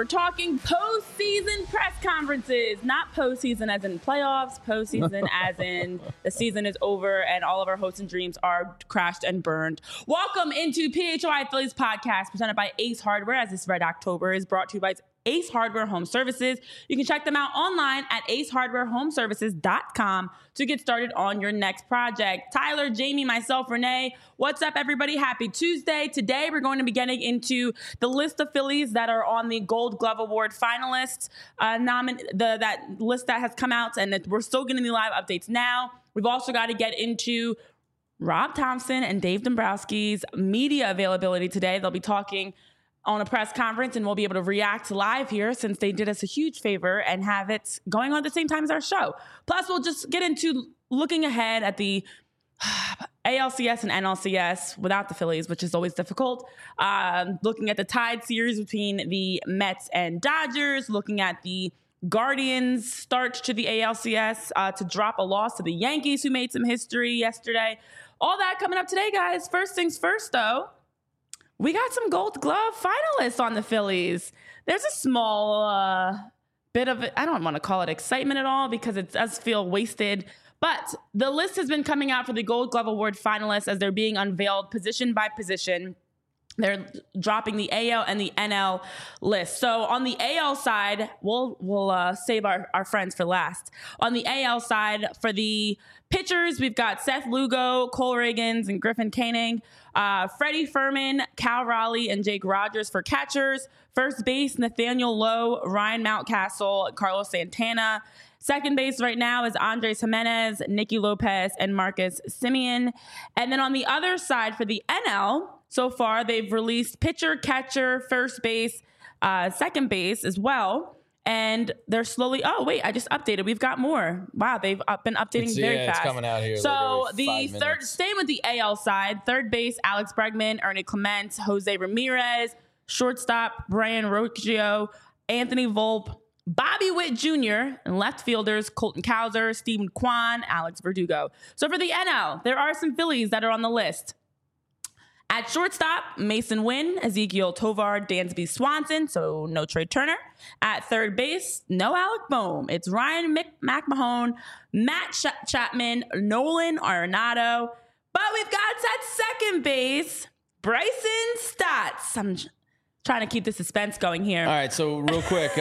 We're talking postseason press conferences, not postseason as in playoffs, postseason as in the season is over and all of our hopes and dreams are crashed and burned. Welcome into PHY Phillies podcast presented by Ace Hardware, as this Red October is brought to you by Ace Hardware Home Services. You can check them out online at acehardwarehomeservices.com to get started on your next project. Tyler, Jamie, myself, Renee, what's up, everybody? Happy Tuesday. Today, we're going to be getting into the list of Phillies that are on the Gold Glove Award finalists, that list that has come out, and that we're still getting the live updates now. We've also got to get into Rob Thomson and Dave Dombrowski's media availability today. They'll be talking on a press conference, and we'll be able to react live here since they did us a huge favor and have it going on at the same time as our show. Plus, we'll just get into looking ahead at the ALCS and NLCS without the Phillies, which is always difficult. Looking at the tied series between the Mets and Dodgers, looking at the Guardians' start to the ALCS to drop a loss to the Yankees, who made some history yesterday. All that coming up today, guys. First things first, though. We got some Gold Glove finalists on the Phillies. There's a small bit of, I don't want to call it excitement at all because it does feel wasted. But the list has been coming out for the Gold Glove Award finalists as they're being unveiled position by position. They're dropping the AL and the NL list. So on the AL side, we'll save our friends for last. On the AL side, for the pitchers, we've got Seth Lugo, Cole Riggins, and Griffin Canning. Freddie Fermin, Cal Raleigh, and Jake Rogers for catchers. First base, Nathaniel Lowe, Ryan Mountcastle, Carlos Santana. Second base right now is Andres Jimenez, Nicky Lopez, and Marcus Semien. And then on the other side for the NL, so far they've released pitcher, catcher, first base, second base as well. And they're slowly, I just updated. We've got more. Wow, they've been updating very fast. It's coming out here. So the third, staying with the AL side, third base, Alex Bregman, Ernie Clement, Jose Ramirez, shortstop, Brian Rocchio, Anthony Volpe, Bobby Witt Jr., and left fielders, Colton Cowser, Stephen Kwan, Alex Verdugo. So for the NL, there are some Phillies that are on the list. At shortstop, Mason Wynn, Ezekiel Tovar, Dansby Swanson, so no Trey Turner. At third base, no Alec Bohm. It's Ryan McMahon, Matt Chapman, Nolan Arenado. But we've got at second base, Bryson Stott. I'm trying to keep the suspense going here. All right, so real quick,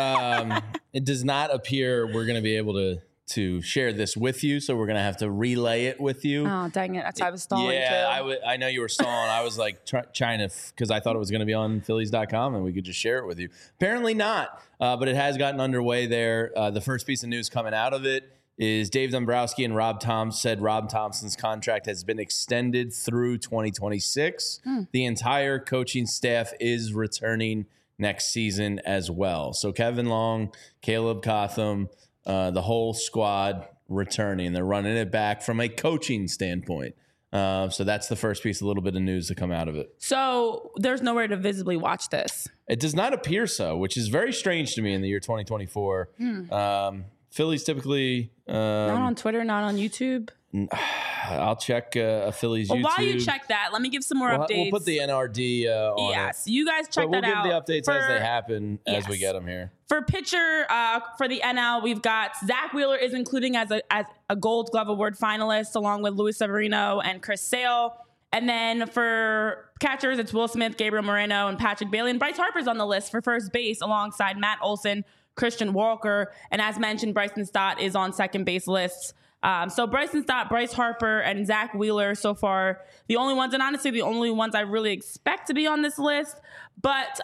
it does not appear we're going to be able to share this with you, so we're going to have to relay it with you. Oh, dang it. That's why I was stalling, yeah, too. I know you were stalling. I was like trying to, because I thought it was going to be on Phillies.com and we could just share it with you. Apparently not, but it has gotten underway there. The first piece of news coming out of it is Dave Dombrowski and Rob Thomson said Rob Thompson's contract has been extended through 2026. The entire coaching staff is returning next season as well. So Kevin Long, Caleb Cotham, the whole squad returning. They're running it back from a coaching standpoint. So that's the first piece, a little bit of news to come out of it. So there's nowhere to visibly watch this. It does not appear so, which is very strange to me in the year 2024. Phillies typically... not on Twitter, not on YouTube? I'll check a Phillies YouTube. While you check that, let me give some more updates. We'll put the NRD on Yes, you guys check that out. We'll give the updates as they happen as we get them here. For pitcher, for the NL, we've got Zach Wheeler is including as a Gold Glove Award finalist, along with Luis Severino and Chris Sale. And then for catchers, it's Will Smith, Gabriel Moreno, and Patrick Bailey. And Bryce Harper's on the list for first base alongside Matt Olson, Christian Walker. And as mentioned, Bryson Stott is on second base lists. So Bryson Stott, Bryce Harper, and Zach Wheeler so far, the only ones, and honestly, the only ones I really expect to be on this list. But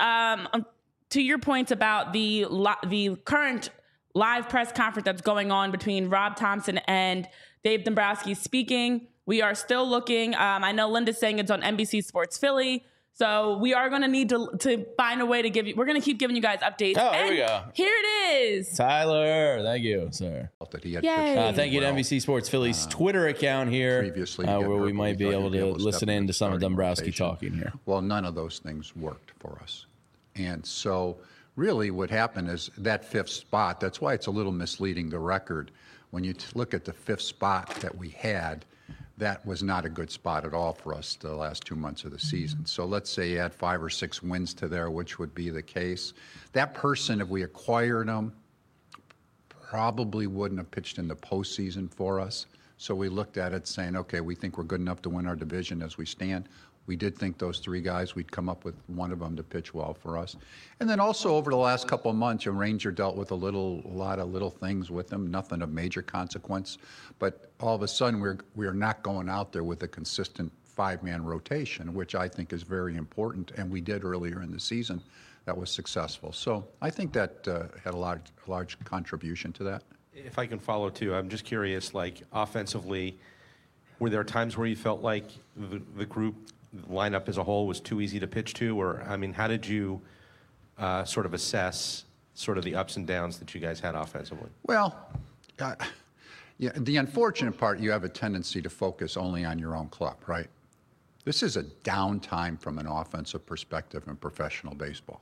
to your point about the current live press conference that's going on between Rob Thomson and Dave Dombrowski speaking, we are still looking. I know Linda's saying it's on NBC Sports Philly. So we are going to need to find a way to give you, we're going to keep giving you guys updates. Oh, here we go. Here it is. Tyler, thank you, sir. That he had Thank you to NBC Sports Philly's Twitter account here, where we might be able to listen in to some of Dombrowski talking here. Well, none of those things worked for us. And so really what happened is that fifth spot, that's why it's a little misleading, the record. When you look at the fifth spot that we had, that was not a good spot at all for us the last 2 months of the season. So let's say you add 5 or 6 wins to there, which would be the case. That person, if we acquired him, probably wouldn't have pitched in the postseason for us. So we looked at it saying, okay, we think we're good enough to win our division as we stand. We did think those 3 guys, we'd come up with one of them to pitch well for us. And then also over the last couple of months, Ranger dealt with a lot of little things with them, nothing of major consequence. But all of a sudden, we're not going out there with a consistent 5-man rotation, which I think is very important. And we did earlier in the season. That was successful. So I think that had a large contribution to that. If I can follow too, I'm just curious, like offensively, were there times where you felt like the group lineup as a whole was too easy to pitch to? Or, I mean, how did you sort of assess sort of the ups and downs that you guys had offensively? Well, yeah, the unfortunate part, you have a tendency to focus only on your own club, right? This is a downtime from an offensive perspective in professional baseball.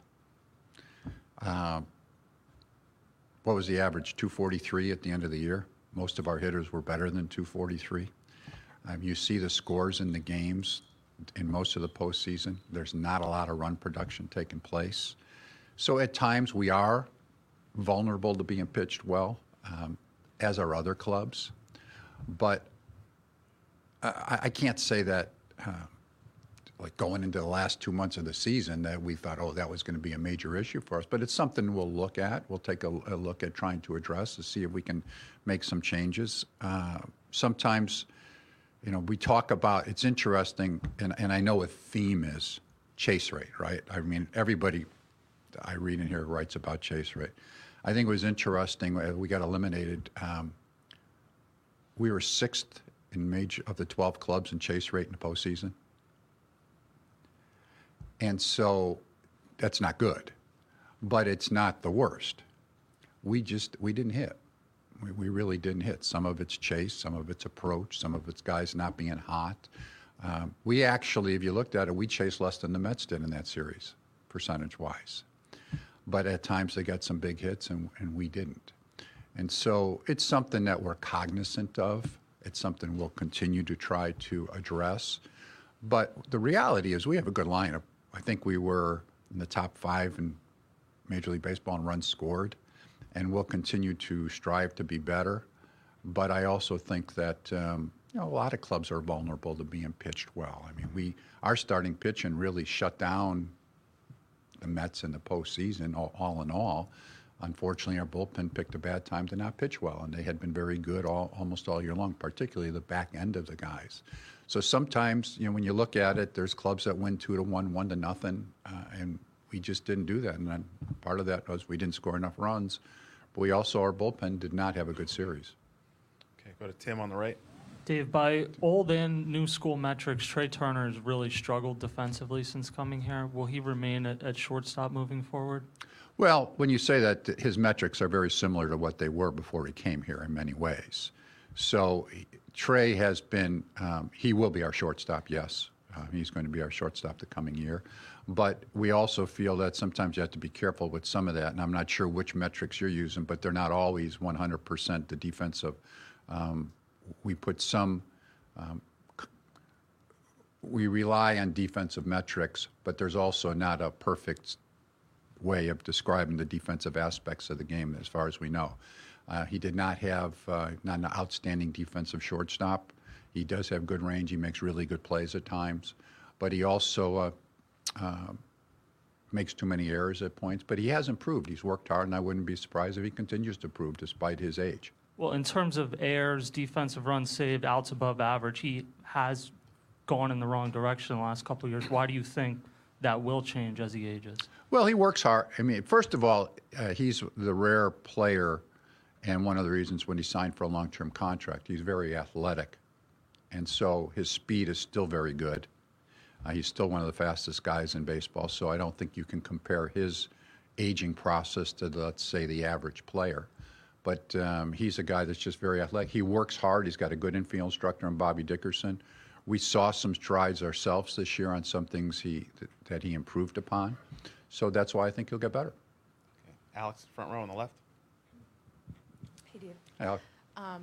What was the average? 243 at the end of the year. Most of our hitters were better than 243. You see the scores in the games in most of the postseason. There's not a lot of run production taking place. So at times we are vulnerable to being pitched well, as are other clubs. But I can't say that like going into the last 2 months of the season that we thought, oh, that was going to be a major issue for us. But it's something we'll look at. We'll take a look at trying to address to see if we can make some changes. Sometimes, we talk about, it's interesting, and I know a theme is chase rate, right? I mean, everybody I read in here writes about chase rate. I think it was interesting, we got eliminated. We were 6th in major of the 12 clubs in chase rate in the postseason. And so that's not good, but it's not the worst. We didn't hit. We really didn't hit. Some of it's chase, some of it's approach, some of it's guys not being hot. We actually, if you looked at it, we chased less than the Mets did in that series, percentage-wise. But at times they got some big hits and we didn't. And so it's something that we're cognizant of. It's something we'll continue to try to address. But the reality is we have a good lineup. I think we were in the top 5 in Major League Baseball in runs scored, and we'll continue to strive to be better. But I also think that a lot of clubs are vulnerable to being pitched well. I mean, our starting pitching really shut down the Mets in the postseason, all in all. Unfortunately, our bullpen picked a bad time to not pitch well, and they had been very good almost all year long, particularly the back end of the guys. So sometimes, when you look at it, there's clubs that win 2-1, 1-0, and we just didn't do that. And then part of that was we didn't score enough runs, but we also, our bullpen did not have a good series. Okay, go to Tim on the right. Dave, by old and new school metrics, Trey Turner has really struggled defensively since coming here. Will he remain at shortstop moving forward? Well, when you say that, his metrics are very similar to what they were before he came here in many ways. So Trey has been, he will be our shortstop, yes. He's going to be our shortstop the coming year. But we also feel that sometimes you have to be careful with some of that. And I'm not sure which metrics you're using, but they're not always 100% the defensive. We put some, we rely on defensive metrics, but there's also not a perfect way of describing the defensive aspects of the game as far as we know. He did not have not an outstanding defensive shortstop. He does have good range. He makes really good plays at times, but he also makes too many errors at points. But he has improved. He's worked hard, and I wouldn't be surprised if he continues to improve despite his age. Well, in terms of errors, defensive runs saved, outs above average, he has gone in the wrong direction in the last couple of years. Why do you think that will change as he ages? Well, he works hard. I mean, first of all, he's the rare player, and one of the reasons when he signed for a long-term contract, he's very athletic. And so his speed is still very good. He's still one of the fastest guys in baseball, so I don't think you can compare his aging process to, let's say, the average player. But he's a guy that's just very athletic. He works hard. He's got a good infield instructor in Bobby Dickerson. We saw some strides ourselves this year on some things that he improved upon. So that's why I think he'll get better. Okay. Alex, front row on the left. Hey, Dave. Alex.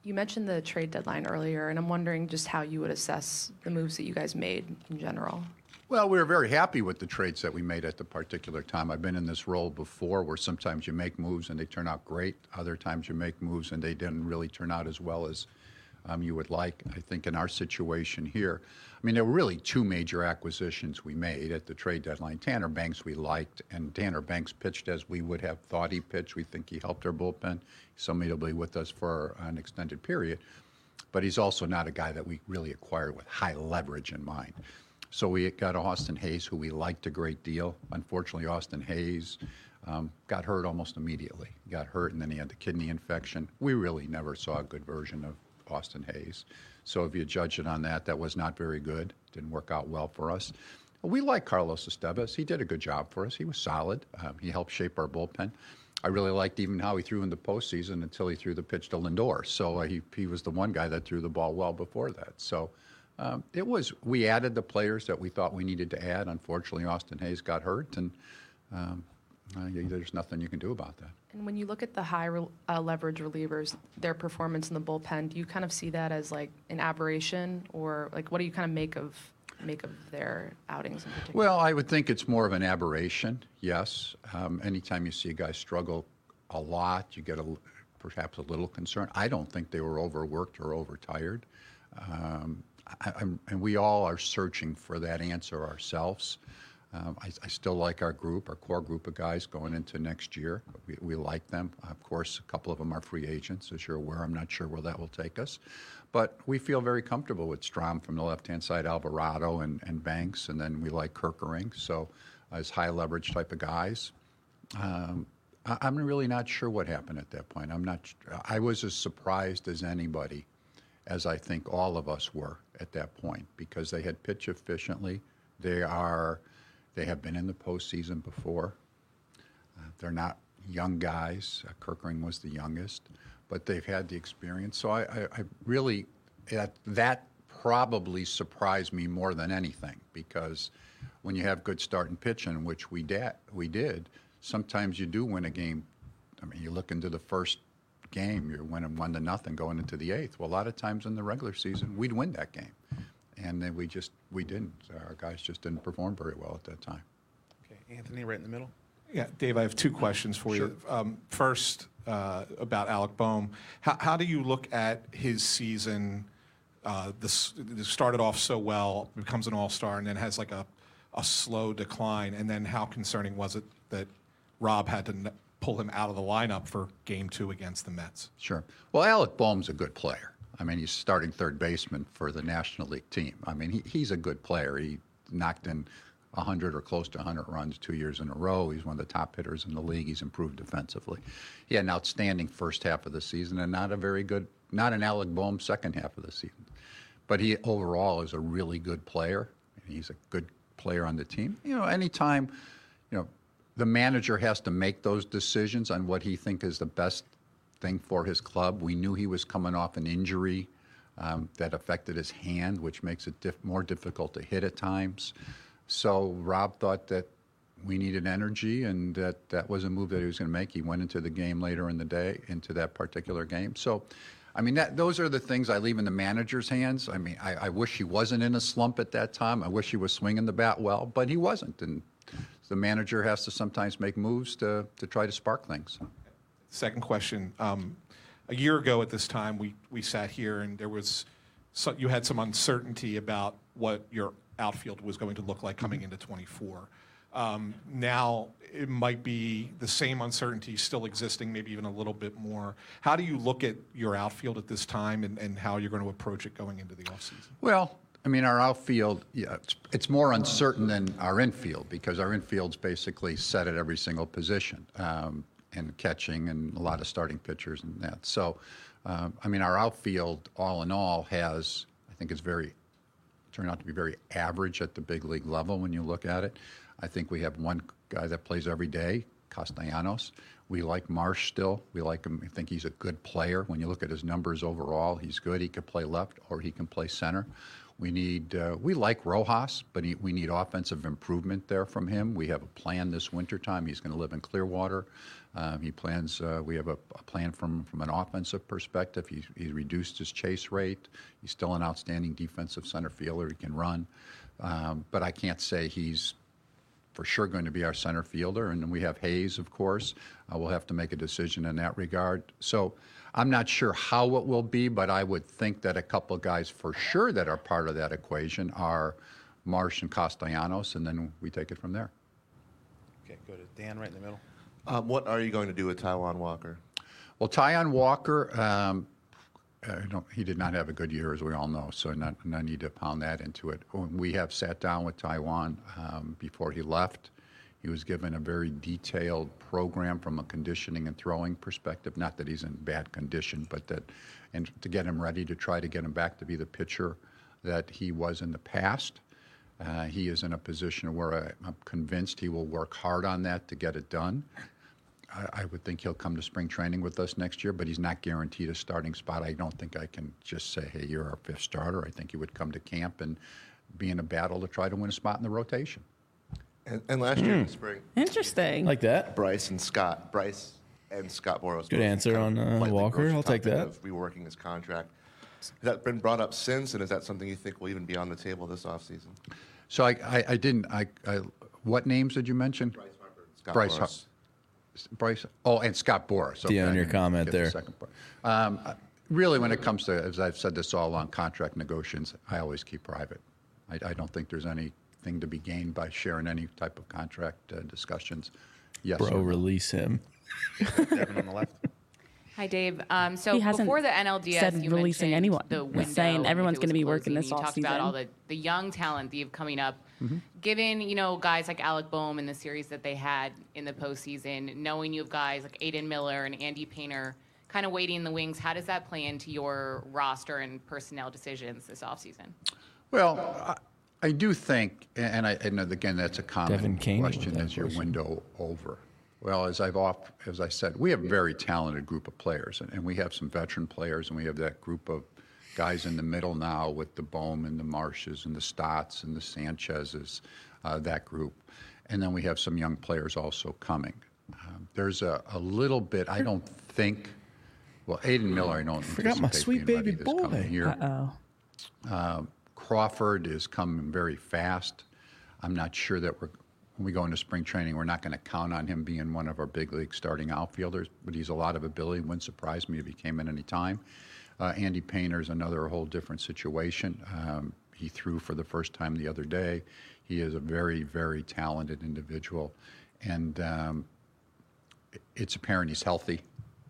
You mentioned the trade deadline earlier, and I'm wondering just how you would assess the moves that you guys made in general. Well, we were very happy with the trades that we made at the particular time. I've been in this role before where sometimes you make moves and they turn out great. Other times you make moves and they didn't really turn out as well as you would like. I think in our situation here, I mean, there were really two major acquisitions we made at the trade deadline. Tanner Banks we liked, and Tanner Banks pitched as we would have thought he pitched. We think he helped our bullpen. He's somebody that'll be with us for an extended period. But he's also not a guy that we really acquired with high leverage in mind. So we got Austin Hayes, who we liked a great deal. Unfortunately, Austin Hayes got hurt almost immediately. He got hurt, and then he had the kidney infection. We really never saw a good version of Austin Hayes. So if you judge it on that, that was not very good. Didn't work out well for us. We like Carlos Estevez. He did a good job for us. He was solid. He helped shape our bullpen. I really liked even how he threw in the postseason until he threw the pitch to Lindor. So he was the one guy that threw the ball well before that. So we added the players that we thought we needed to add. Unfortunately, Austin Hayes got hurt, and there's nothing you can do about that. And when you look at the high leverage relievers, their performance in the bullpen, do you kind of see that as like an aberration, or like what do you kind of make of their outings in particular? Well, I would think it's more of an aberration, yes. Anytime you see a guy struggle a lot, you get perhaps a little concern. I don't think they were overworked or overtired. And we all are searching for that answer ourselves. I still like our group, our core group of guys going into next year. We like them. Of course, a couple of them are free agents, as you're aware. I'm not sure where that will take us. But we feel very comfortable with Strom from the left-hand side, Alvarado and Banks, and then we like Kerkering. So as high-leverage type of guys. I'm really not sure what happened at that point. I was as surprised as anybody, as I think all of us were at that point, because they had pitched efficiently. They have been in the postseason before. They're not young guys. Kerkering was the youngest, but they've had the experience. So I really, that probably surprised me more than anything, because when you have good starting pitching, which we did, sometimes you do win a game. I mean, you look into the first game, you're winning 1-0 going into the eighth. Well, a lot of times in the regular season, we'd win that game. And then we didn't. Our guys just didn't perform very well at that time. Okay, Anthony, right in the middle. Yeah, Dave, I have two questions for you. First, about Alec Bohm. How do you look at his season? This started off so well, becomes an all-star, and then has like a slow decline. And then how concerning was it that Rob had to pull him out of the lineup for Game 2 against the Mets? Sure. Well, Alec Bohm's a good player. I mean, he's starting third baseman for the National League team. I mean, he's a good player. He knocked in 100 or close to 100 runs 2 years in a row. He's one of the top hitters in the league. He's improved defensively. He had an outstanding first half of the season and not an Alec Bohm second half of the season. But he overall is a really good player. He's a good player on the team. Anytime, the manager has to make those decisions on what he thinks is the best thing for his club. We knew he was coming off an injury that affected his hand, which makes it more difficult to hit at times. So Rob thought that we needed energy, and that was a move that he was going to make. He went into the game later in the day, into that particular game. So, I mean, those are the things I leave in the manager's hands. I mean, I wish he wasn't in a slump at that time. I wish he was swinging the bat well, but he wasn't. And the manager has to sometimes make moves to try to spark things. Second question. A year ago at this time, we sat here, and you had some uncertainty about what your outfield was going to look like coming into 24. Now it might be the same uncertainty still existing, maybe even a little bit more. How do you look at your outfield at this time and how you're going to approach it going into the offseason? Well, I mean, our outfield, it's more uncertain than our infield, because our infield's basically set at every single position. And catching and a lot of starting pitchers and that. So, I mean, our outfield, all in all, I think it's turned out to be very average at the big league level when you look at it. I think we have one guy that plays every day, Castellanos. We like Marsh still. We like him. I think he's a good player. When you look at his numbers overall, he's good. He can play left or he can play center. We like Rojas, but we need offensive improvement there from him. We have a plan this wintertime. He's going to live in Clearwater. He plans. We have a plan from an offensive perspective. He's reduced his chase rate. He's still an outstanding defensive center fielder. He can run, but I can't say he's for sure going to be our center fielder. And then we have Hayes, of course. We'll have to make a decision in that regard. So I'm not sure how it will be, but I would think that a couple of guys for sure that are part of that equation are Marsh and Castellanos, and then we take it from there. Okay, go to Dan right in the middle. What are you going to do with Taijuan Walker? Well, Taijuan Walker, he did not have a good year, as we all know, so no need to pound that into it. We have sat down with Taijuan before he left. He was given a very detailed program from a conditioning and throwing perspective. Not that he's in bad condition, but and to get him ready to try to get him back to be the pitcher that he was in the past. He is in a position where I'm convinced he will work hard on that to get it done. I would think he'll come to spring training with us next year, but he's not guaranteed a starting spot. I don't think I can just say, hey, you're our fifth starter. I think he would come to camp and be in a battle to try to win a spot in the rotation. And last year in the spring, Interesting. Like that. Bryce and Scott Boras. Good answer on Walker. I'll take that. Of reworking his contract. Has that been brought up since, and is that something you think will even be on the table this offseason? So I didn't. What names did you mention? Bryce Harper and Scott Boras. Bryce. Oh, and Scott Boras. Okay, on your comment there. Second part. Really, when it comes to, as I've said this all along, contract negotiations, I always keep private. I don't think there's anything to be gained by sharing any type of contract discussions. Yes. Bro, release him. Devin on the left. Hi, Dave. So He hasn't before the NLDS, said you releasing mentioned anyone. the He's window, saying and everyone's if it gonna was be working closing, this and you talked about offseason. all the young talent that you've coming up. Given, guys like Alec Boehm and the series that they had in the postseason, knowing you have guys like Aiden Miller and Andy Painter kind of waiting in the wings, how does that play into your roster and personnel decisions this offseason? Well, I do think, and again, that's a common Devin Caney with question: that is your question. window over? Well, as I said, we have a very talented group of players, and we have some veteran players, and we have that group of guys in the middle now with the Boehm and the Marshes and the Stotts and the Sanchez's, that group. And then we have some young players also coming. There's a little bit, I don't think, well, Aiden Miller, I don't Forgot my anticipate sweet being ready baby this coming boy. year. Crawford is coming very fast. I'm not sure that when we go into spring training, we're not going to count on him being one of our big league starting outfielders, but he's a lot of ability. Wouldn't surprise me if he came in any time. Andy Painter is another whole different situation. He threw for the first time the other day. He is a very, very talented individual, and it's apparent he's healthy,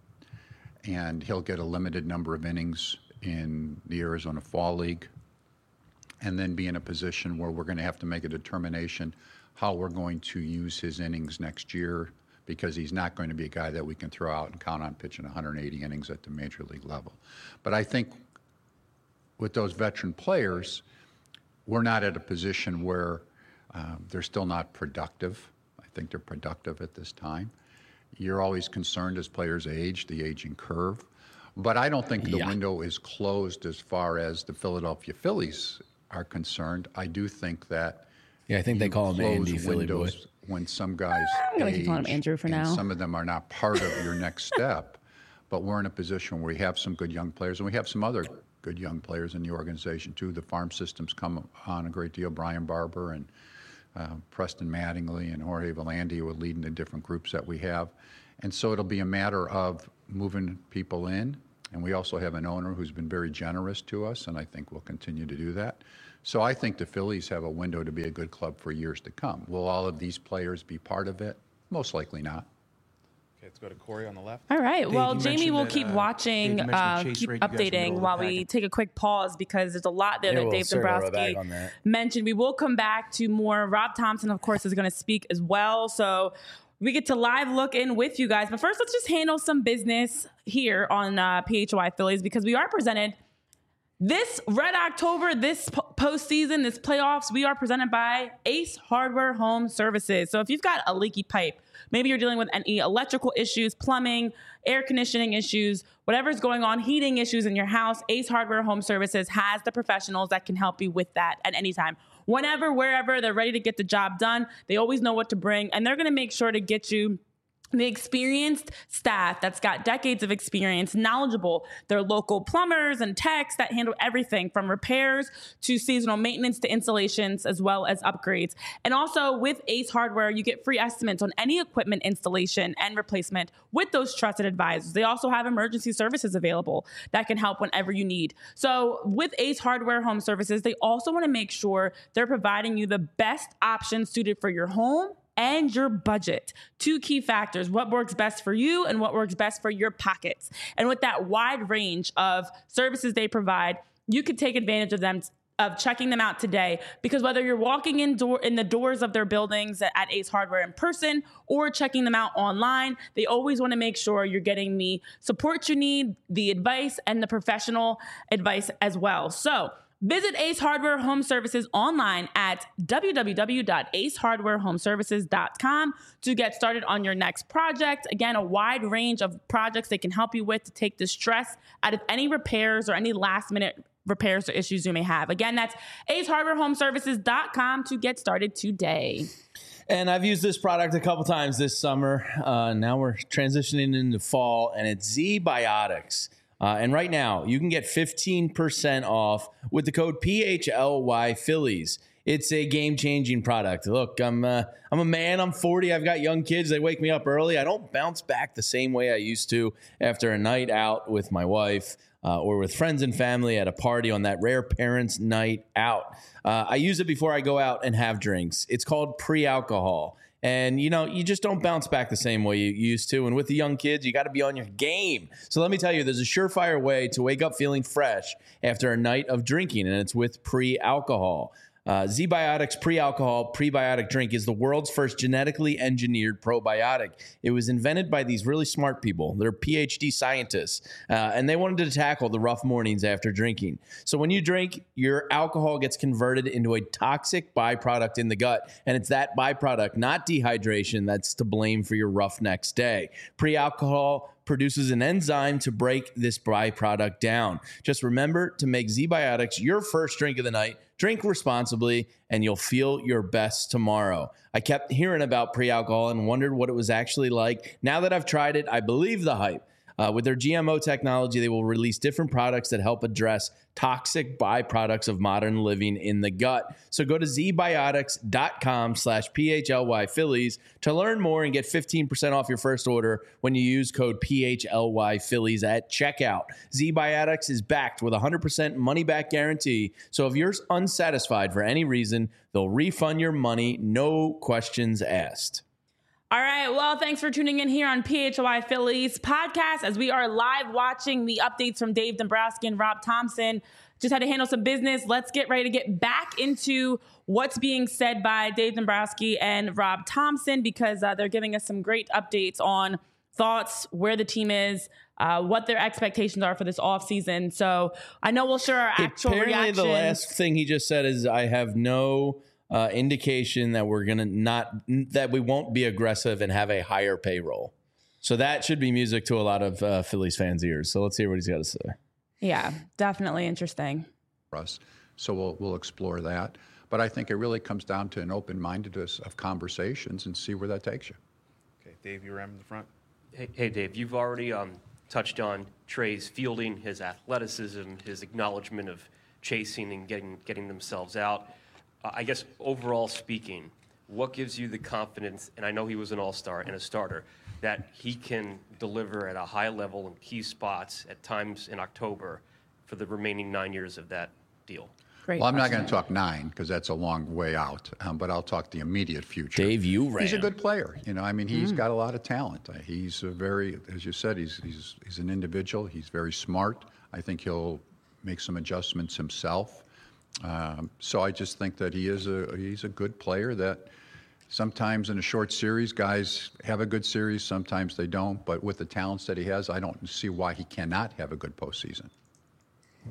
and he'll get a limited number of innings in the Arizona Fall League, and then be in a position where we're going to have to make a determination how we're going to use his innings next year, because he's not going to be a guy that we can throw out and count on pitching 180 innings at the major league level. But I think with those veteran players, we're not at a position where they're still not productive. I think they're productive at this time. You're always concerned as players age, the aging curve. But I don't think the window is closed as far as the Philadelphia Phillies are concerned. I do think that I think they call him Andy Philly Boy. When some guys I'm gonna keep calling him age, Andrew for and now. some of them are not part of your next step. But we're in a position where we have some good young players, and we have some other good young players in the organization too. The farm system's come on a great deal. Brian Barber and Preston Mattingly and Jorge Volandi are leading the different groups that we have. And so it'll be a matter of moving people in. And we also have an owner who's been very generous to us, and I think will continue to do that. So I think the Phillies have a window to be a good club for years to come. Will all of these players be part of it? Most likely not. Okay, let's go to Corey on the left. All right. Dave, well, you Jamie mentioned will that, keep Dave, watching, you mentioned the chase keep rate, you guys were updating middle while of the we pack. take a quick pause, because there's a lot there that Dave bag on Dombrowski that. mentioned. We will come back to more. Rob Thompson, of course, is going to speak as well. So we get to live look in with you guys. But first, let's just handle some business here on PHY Phillies, because we are presented This Red October, this postseason, this playoffs, we are presented by Ace Hardware Home Services. So if you've got a leaky pipe, maybe you're dealing with any electrical issues, plumbing, air conditioning issues, whatever's going on, heating issues in your house, Ace Hardware Home Services has the professionals that can help you with that at any time. Whenever, wherever, they're ready to get the job done. They always know what to bring, and they're going to make sure to get you the experienced staff that's got decades of experience, knowledgeable. They're local plumbers and techs that handle everything from repairs to seasonal maintenance to installations as well as upgrades. And also with Ace Hardware, you get free estimates on any equipment installation and replacement with those trusted advisors. They also have emergency services available that can help whenever you need. So with Ace Hardware Home Services, they also want to make sure they're providing you the best options suited for your home and your budget. Two key factors: what works best for you and what works best for your pockets. And with that wide range of services they provide, you could take advantage of them, of checking them out today, because whether you're walking in the doors of their buildings at Ace Hardware in person or checking them out online, they always want to make sure you're getting the support you need, the advice, and the professional advice as well. So visit Ace Hardware Home Services online at www.acehardwarehomeservices.com to get started on your next project. Again, a wide range of projects they can help you with to take the stress out of any repairs or any last-minute repairs or issues you may have. Again, that's acehardwarehomeservices.com to get started today. And I've used this product a couple times this summer. Now we're transitioning into fall, and it's Z-Biotics. And right now, you can get 15% off with the code PHLY Phillies. It's a game-changing product. Look, I'm a man. I'm 40. I've got young kids. They wake me up early. I don't bounce back the same way I used to after a night out with my wife or with friends and family at a party on that rare parents' night out. I use it before I go out and have drinks. It's called pre-alcohol. And, you just don't bounce back the same way you used to. And with the young kids, you got to be on your game. So let me tell you, there's a surefire way to wake up feeling fresh after a night of drinking, and it's with pre-alcohol. Z-Biotics pre-alcohol prebiotic drink is the world's first genetically engineered probiotic. It was invented by these really smart people. They're PhD scientists, and they wanted to tackle the rough mornings after drinking. So when you drink, your alcohol gets converted into a toxic byproduct in the gut, and it's that byproduct, not dehydration, that's to blame for your rough next day. Pre-alcohol produces an enzyme to break this byproduct down. Just remember to make Z-Biotics your first drink of the night. Drink responsibly, and you'll feel your best tomorrow. I kept hearing about pre-alcohol and wondered what it was actually like. Now that I've tried it, I believe the hype. With their GMO technology, they will release different products that help address toxic byproducts of modern living in the gut. So go to zbiotics.com/PHLY Phillies to learn more and get 15% off your first order when you use code PHLY Phillies at checkout. Z-Biotics is backed with a 100% money-back guarantee. So if you're unsatisfied for any reason, they'll refund your money, no questions asked. All right. Well, thanks for tuning in here on PHLY Phillies podcast as we are live watching the updates from Dave Dombrowski and Rob Thompson. Just had to handle some business. Let's get ready to get back into what's being said by Dave Dombrowski and Rob Thompson, because they're giving us some great updates on thoughts, where the team is, what their expectations are for this offseason. So I know we'll share our actual reactions. reactions. The last thing he just said is, I have no indication that that we won't be aggressive and have a higher payroll. So that should be music to a lot of Phillies fans' ears. So let's hear what he's got to say. Yeah, definitely interesting. For us. So we'll explore that. But I think it really comes down to an open-mindedness of conversations and see where that takes you. Okay, Dave, you're in the front. Hey, Dave, you've already touched on Trey's fielding, his athleticism, his acknowledgement of chasing and getting themselves out. I guess overall speaking, what gives you the confidence, and I know he was an all-star and a starter, that he can deliver at a high level in key spots at times in October for the remaining 9 years of that deal? Great. Well, I'm not going to talk 9 because that's a long way out, but I'll talk the immediate future. Dave, you ran. He's a good player. He's got a lot of talent. He's a very, as you said, he's an individual. He's very smart. I think he'll make some adjustments himself. So I just think that he's a good player that sometimes in a short series, guys have a good series, sometimes they don't. But with the talents that he has, I don't see why he cannot have a good postseason. Okay, go to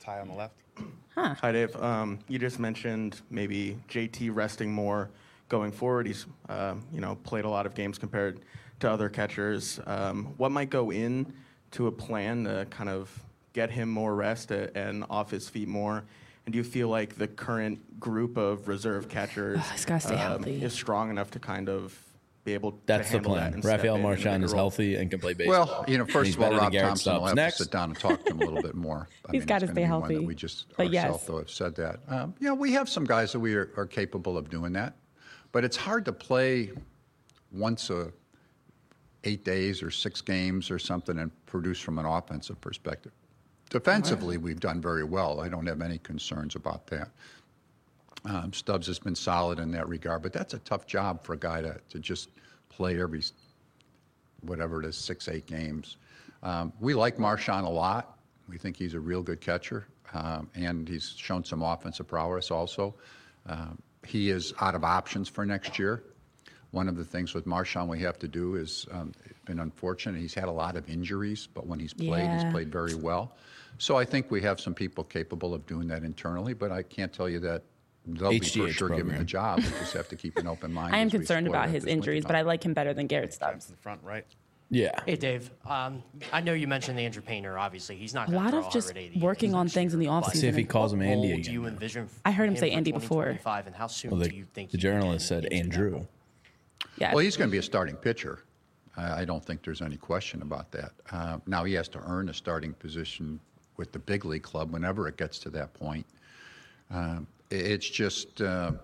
Ty on the left. Hi, Dave. You just mentioned maybe JT resting more going forward. He's, played a lot of games compared to other catchers. What might go in to a plan to kind of get him more rest and off his feet more? And do you feel like the current group of reserve catchers He's gotta stay healthy. is strong enough to kind of be able That's to the handle that plan. and step Rafael in and Marchand make a is role? healthy and can play baseball. Well, first He's of all, better than Rob Garrett Thompson will Stubbs. have Next. to sit down and talk to him a little bit more. He's gotta it's stay gonna be one healthy. that we just But yes. ourselves, though, have said that. We have some guys that we are capable of doing that, but it's hard to play once 8 days or 6 games or something and produce from an offensive perspective. Defensively, we've done very well. I don't have any concerns about that. Stubbs has been solid in that regard, but that's a tough job for a guy to just play every, whatever it is, 6, 8 games. We like Marchand a lot. We think he's a real good catcher, and he's shown some offensive prowess also. He is out of options for next year. One of the things with Marchand we have to do is, it's been unfortunate, he's had a lot of injuries, but when he's played very well. So I think we have some people capable of doing that internally, but I can't tell you that they'll be for HGH sure given program. the job. We just have to keep an open mind. I am as we concerned explore about that his this injuries, but I wintertime. like him better than Garrett Stubbs. In the front right. Yeah. Hey, Dave. I know you mentioned the Andrew Painter. Obviously, he's not A going to lot throw of just 180 working innings on next things in the year, but offseason. See if he calls him what Andy role again. do you envision I heard him say for Andy before. 2025, and how soon Well, do you think the he journalist can said get into that Andrew. role? Yeah. Well, he's going to be a starting pitcher. I don't think there's any question about that. Now, he has to earn a starting position with the big league club whenever it gets to that point. It's just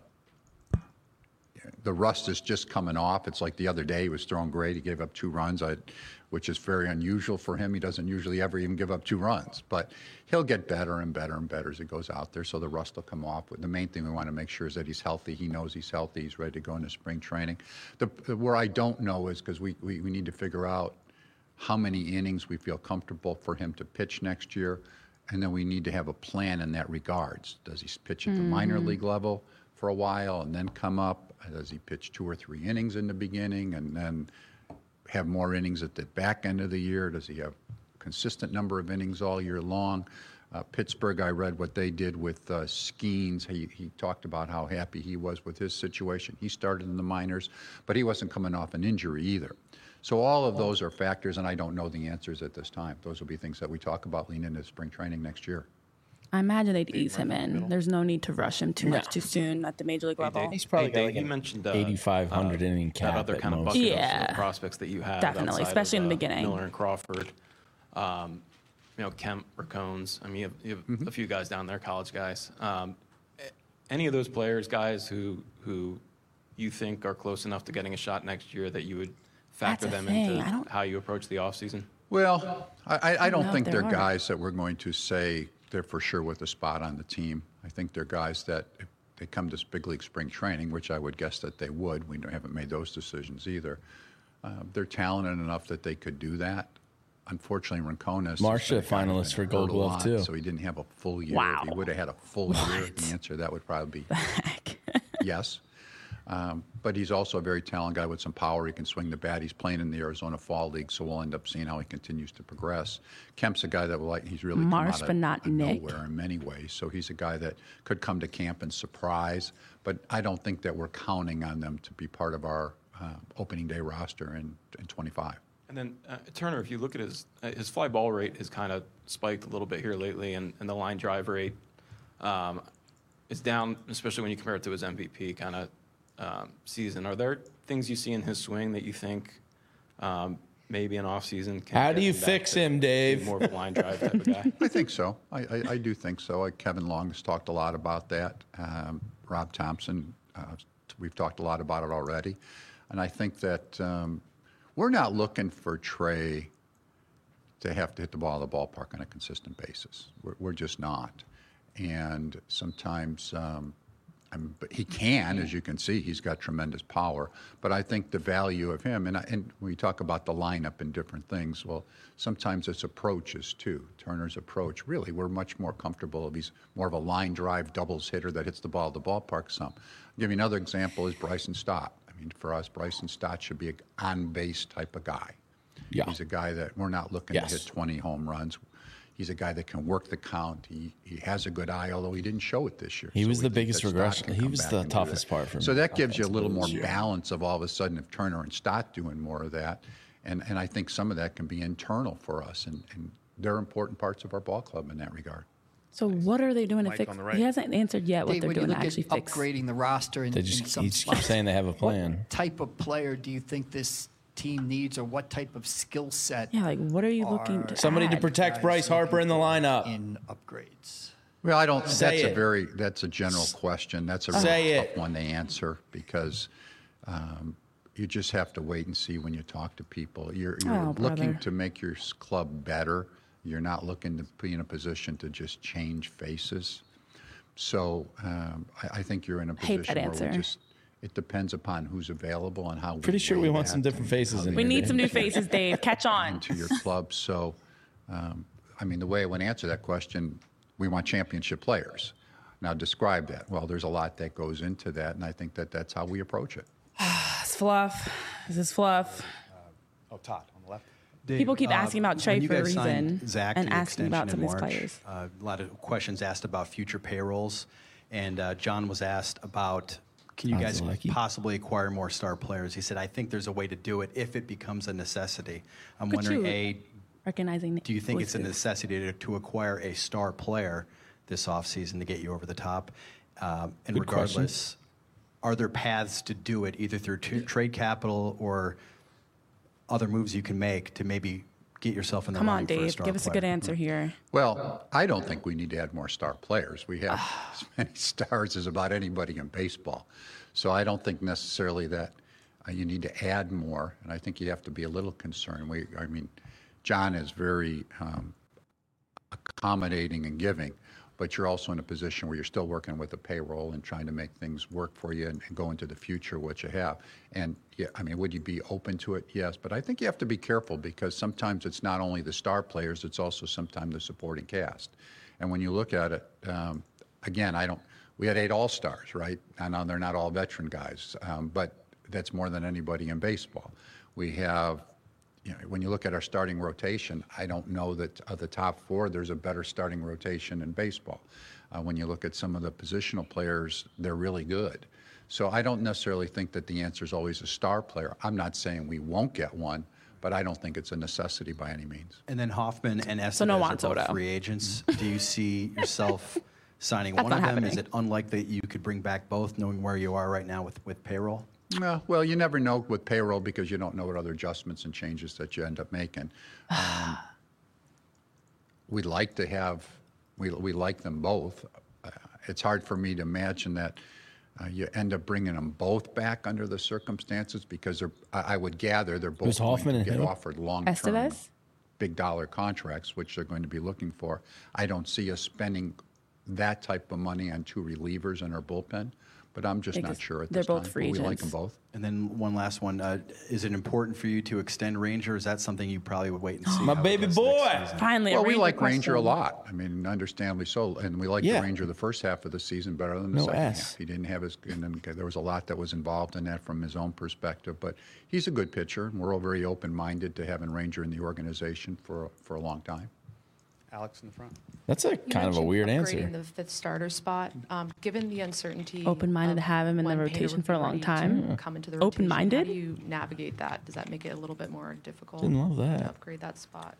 the rust is just coming off. It's like the other day he was throwing great. He gave up 2 runs, which is very unusual for him. He doesn't usually ever even give up 2 runs. But he'll get better and better and better as he goes out there, so the rust will come off. But the main thing we want to make sure is that he's healthy. He knows he's healthy. He's ready to go into spring training. Where I don't know is because we need to figure out how many innings we feel comfortable for him to pitch next year, and then we need to have a plan in that regards. Does he pitch at the minor league level for a while and then come up? Does he pitch 2 or 3 innings in the beginning and then have more innings at the back end of the year? Does he have a consistent number of innings all year long? Pittsburgh, I read what they did with Skeens. He talked about how happy he was with his situation. He started in the minors, but he wasn't coming off an injury either. So all of those are factors, and I don't know the answers at this time. Those will be things that we talk about leading into spring training next year. I imagine they'd ease him in. There's no need to rush him too much too soon at the major league level. He's probably got Dave, like you an mentioned 8,500 inning cap that other at kind of most. bucket Yeah. of prospects that you have. Definitely, outside especially of, in the beginning. Miller and Crawford, Kemp or Cones. I mean, you have a few guys down there, college guys. Any of those players, guys who you think are close enough to getting a shot next year that you would factor That's the them into thing. how you approach the offseason? Well, I don't know think if they're there are. guys that we're going to say they're for sure with a spot on the team. I think they're guys that if they come to big league spring training, which I would guess that they would. We haven't made those decisions either. They're talented enough that they could do that. Unfortunately, Rincones Marcia is a guy who's finalist for been Gold hurt a Glove, lot, too. So he didn't have a full year. Wow. If he would have had a full year, the answer to that would probably be Heck. yes. But he's also a very talented guy with some power. He can swing the bat. He's playing in the Arizona Fall League, so we'll end up seeing how he continues to progress. Kemp's a guy that he's really come Marsh, out but not of Nick. nowhere in many ways. So he's a guy that could come to camp and surprise. But I don't think that we're counting on them to be part of our opening day roster in 25. And then Turner, if you look at his fly ball rate has kind of spiked a little bit here lately, and the line drive rate is down, especially when you compare it to his MVP kind of season. Are there things you see in his swing that you think maybe an offseason can How get do you back fix to him, Dave? being more of a line drive type of guy? I think so. I do think so. Kevin Long has talked a lot about that. Rob Thompson, we've talked a lot about it already. And I think that we're not looking for Trey to have to hit the ball at the ballpark on a consistent basis. We're just not. And sometimes but he can, as you can see, he's got tremendous power. But I think the value of him, and we talk about the lineup and different things, well, sometimes it's approaches too. Turner's approach, really, we're much more comfortable if he's more of a line drive doubles hitter that hits the ball at the ballpark some. I'll give you another example is Bryson Stott. I mean, for us, Bryson Stott should be an on-base type of guy. Yeah. He's a guy that we're not looking Yes. to hit 20 home runs. He's a guy that can work the count. He has a good eye, although he didn't show it this year. He was we the think biggest that Stott regression. can He come was back the and do toughest that. part for me. So that gives you a little more offensively. balance of all of a sudden if Turner and Stott doing more of that. And I think some of that can be internal for us. And they're important parts of our ball club in that regard. So what are they doing to Mike fix? on the right. He hasn't answered yet what Dave, they're when you doing to look actually at fix. upgrading the roster in, They in just some he just spots, keeps saying they have a plan. what type of player do you think this team needs, or what type of skill set? Yeah, like what are you looking to Somebody to add? protect guys Bryce Harper in the lineup. in upgrades? Well, I don't. Say it. That's a general question. That's a Say really it. tough one to answer because you just have to wait and see when you talk to people. You're Oh, looking brother. to make your club better. You're not looking to be in a position to just change faces. So I think you're in a Hate position that where answer. we just. It depends upon who's available and how. Pretty sure we weigh want that some different and faces how in they We here, need Dave. some new faces, Dave. Catch on. into your club. So, I mean, the way I would answer that question, we want championship players. Now, describe that. Well, there's a lot that goes into that, and I think that that's how we approach it. It's fluff. This is fluff. Todd on the left. People keep asking about Trey when you for a guys signed reason Zach and to the asking about extension some in of these March, players. a lot of questions asked about future payrolls, and John was asked about, can you guys possibly acquire more star players? He said, I think there's a way to do it if it becomes a necessity. I'm Look at wondering, you, recognizing. do you think it's a voices. necessity to acquire a star player this offseason to get you over the top? And Good question. regardless, are there paths to do it either through trade capital or other moves you can make to maybe get yourself in the Come on, running for a Dave. star Give us a player? good answer here. Well, I don't think we need to add more star players. We have as many stars as about anybody in baseball. So I don't think necessarily that you need to add more, and I think you have to be a little concerned. I mean, John is very accommodating and giving, but you're also in a position where you're still working with the payroll and trying to make things work for you and go into the future what you have. And yeah, I mean, would you be open to it? Yes, but I think you have to be careful because sometimes it's not only the star players, it's also sometimes the supporting cast. And when you look at it, again, we had 8 All-Stars, right? I know they're not all veteran guys, but that's more than anybody in baseball. We have, when you look at our starting rotation, I don't know that of the top 4, there's a better starting rotation in baseball. When you look at some of the positional players, they're really good. So I don't necessarily think that the answer is always a star player. I'm not saying we won't get one, but I don't think it's a necessity by any means. And then Hoffman and Estevez So no are Juan both Soto. free agents. Do you see yourself signing That's one of not them? Is happening. it unlikely that you could bring back both, knowing where you are right now with payroll? Well, you never know with payroll because you don't know what other adjustments and changes that you end up making. We'd like to have, we like them both. It's hard for me to imagine that you end up bringing them both back under the circumstances because I would gather they're both Who's going Hoffman to and get who? offered long-term, Estevez? big dollar contracts, which they're going to be looking for. I don't see us spending that type of money on 2 relievers in our bullpen, but I'm just not Because sure at they're this time. both But free we like agents. them both. And then one last one. Is it important for you to extend Ranger? Is that something you probably would wait and see? My how it baby goes boy. next season? Finally, Well, a we Ranger like Ranger a question. lot. I mean, understandably so. And we liked Yeah. the Ranger the first half of the season better than the No second ass. half. He didn't have his, and then there was a lot that was involved in that from his own perspective. But he's a good pitcher, and we're all very open-minded to having Ranger in the organization for a long time. Alex in the front. That's a You kind of a mentioned weird upgrading answer. the 5th starter spot. Given the uncertainty, Open-minded to of have him in the when Painter rotation would for a be long ready to time. Come into the rotation, Open-minded? How do you navigate that? Does that make it a little bit more difficult? Didn't love that. To upgrade that spot.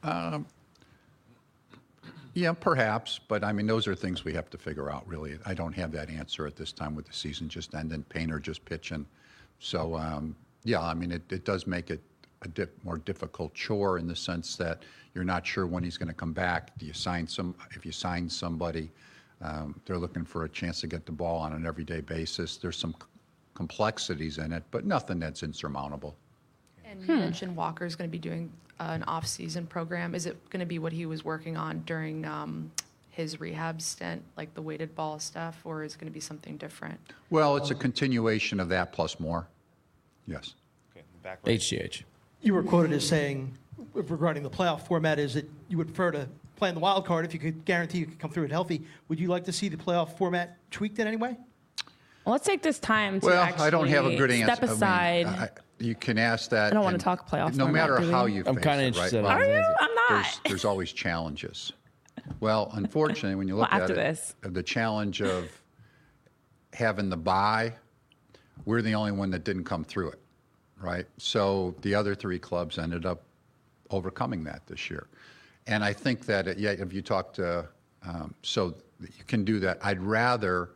Yeah, perhaps, but I mean, those are things we have to figure out, really. I don't have that answer at this time with the season just ended, Painter just pitching. So, yeah, I mean, it does make it a more difficult chore in the sense that you're not sure when he's going to come back. Do you sign if you sign somebody, they're looking for a chance to get the ball on an everyday basis. There's some complexities in it, but nothing that's insurmountable. And you mentioned Walker's going to be doing an off-season program. Is it going to be what he was working on during his rehab stint, like the weighted ball stuff, or is it going to be something different? Well, it's a continuation of that plus more. Yes. Okay, in the back right. HGH. You were quoted as saying, regarding the playoff format, is that you would prefer to play in the wild card if you could guarantee you could come through it healthy. Would you like to see the playoff format tweaked in any way? Well, let's take this time to Well, actually I don't have a good answer. step aside. I mean, you can ask that. I don't want and to talk playoff No format, matter do we? how you I'm face kinda it, interested right? in his Are you? answer. I'm not. There's always challenges. Well, unfortunately, when you look Well, at after it, this. the challenge of having the bye, we're the only one that didn't come through it, right? So the other 3 clubs ended up overcoming that this year. And I think that, if you talk to, so you can do that. I'd rather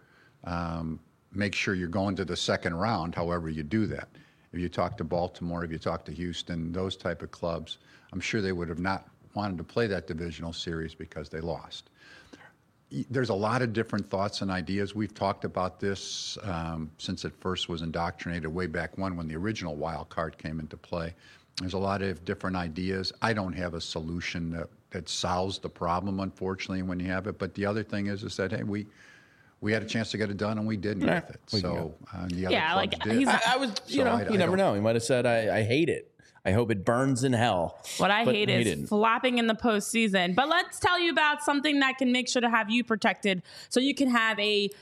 make sure you're going to the second round, however you do that. If you talk to Baltimore, if you talk to Houston, those type of clubs, I'm sure they would have not wanted to play that divisional series because they lost. There's a lot of different thoughts and ideas. We've talked about this since it first was indoctrinated way back when the original wild card came into play. There's a lot of different ideas. I don't have a solution that solves the problem, unfortunately, when you have it. But the other thing is that, hey, we had a chance to get it done and we didn't with it. So the other clubs did. I was, you never know. He might have said, I hate it. I hope it burns in hell. What I hate is didn't. flopping in the postseason. But let's tell you about something that can make sure to have you protected so you can have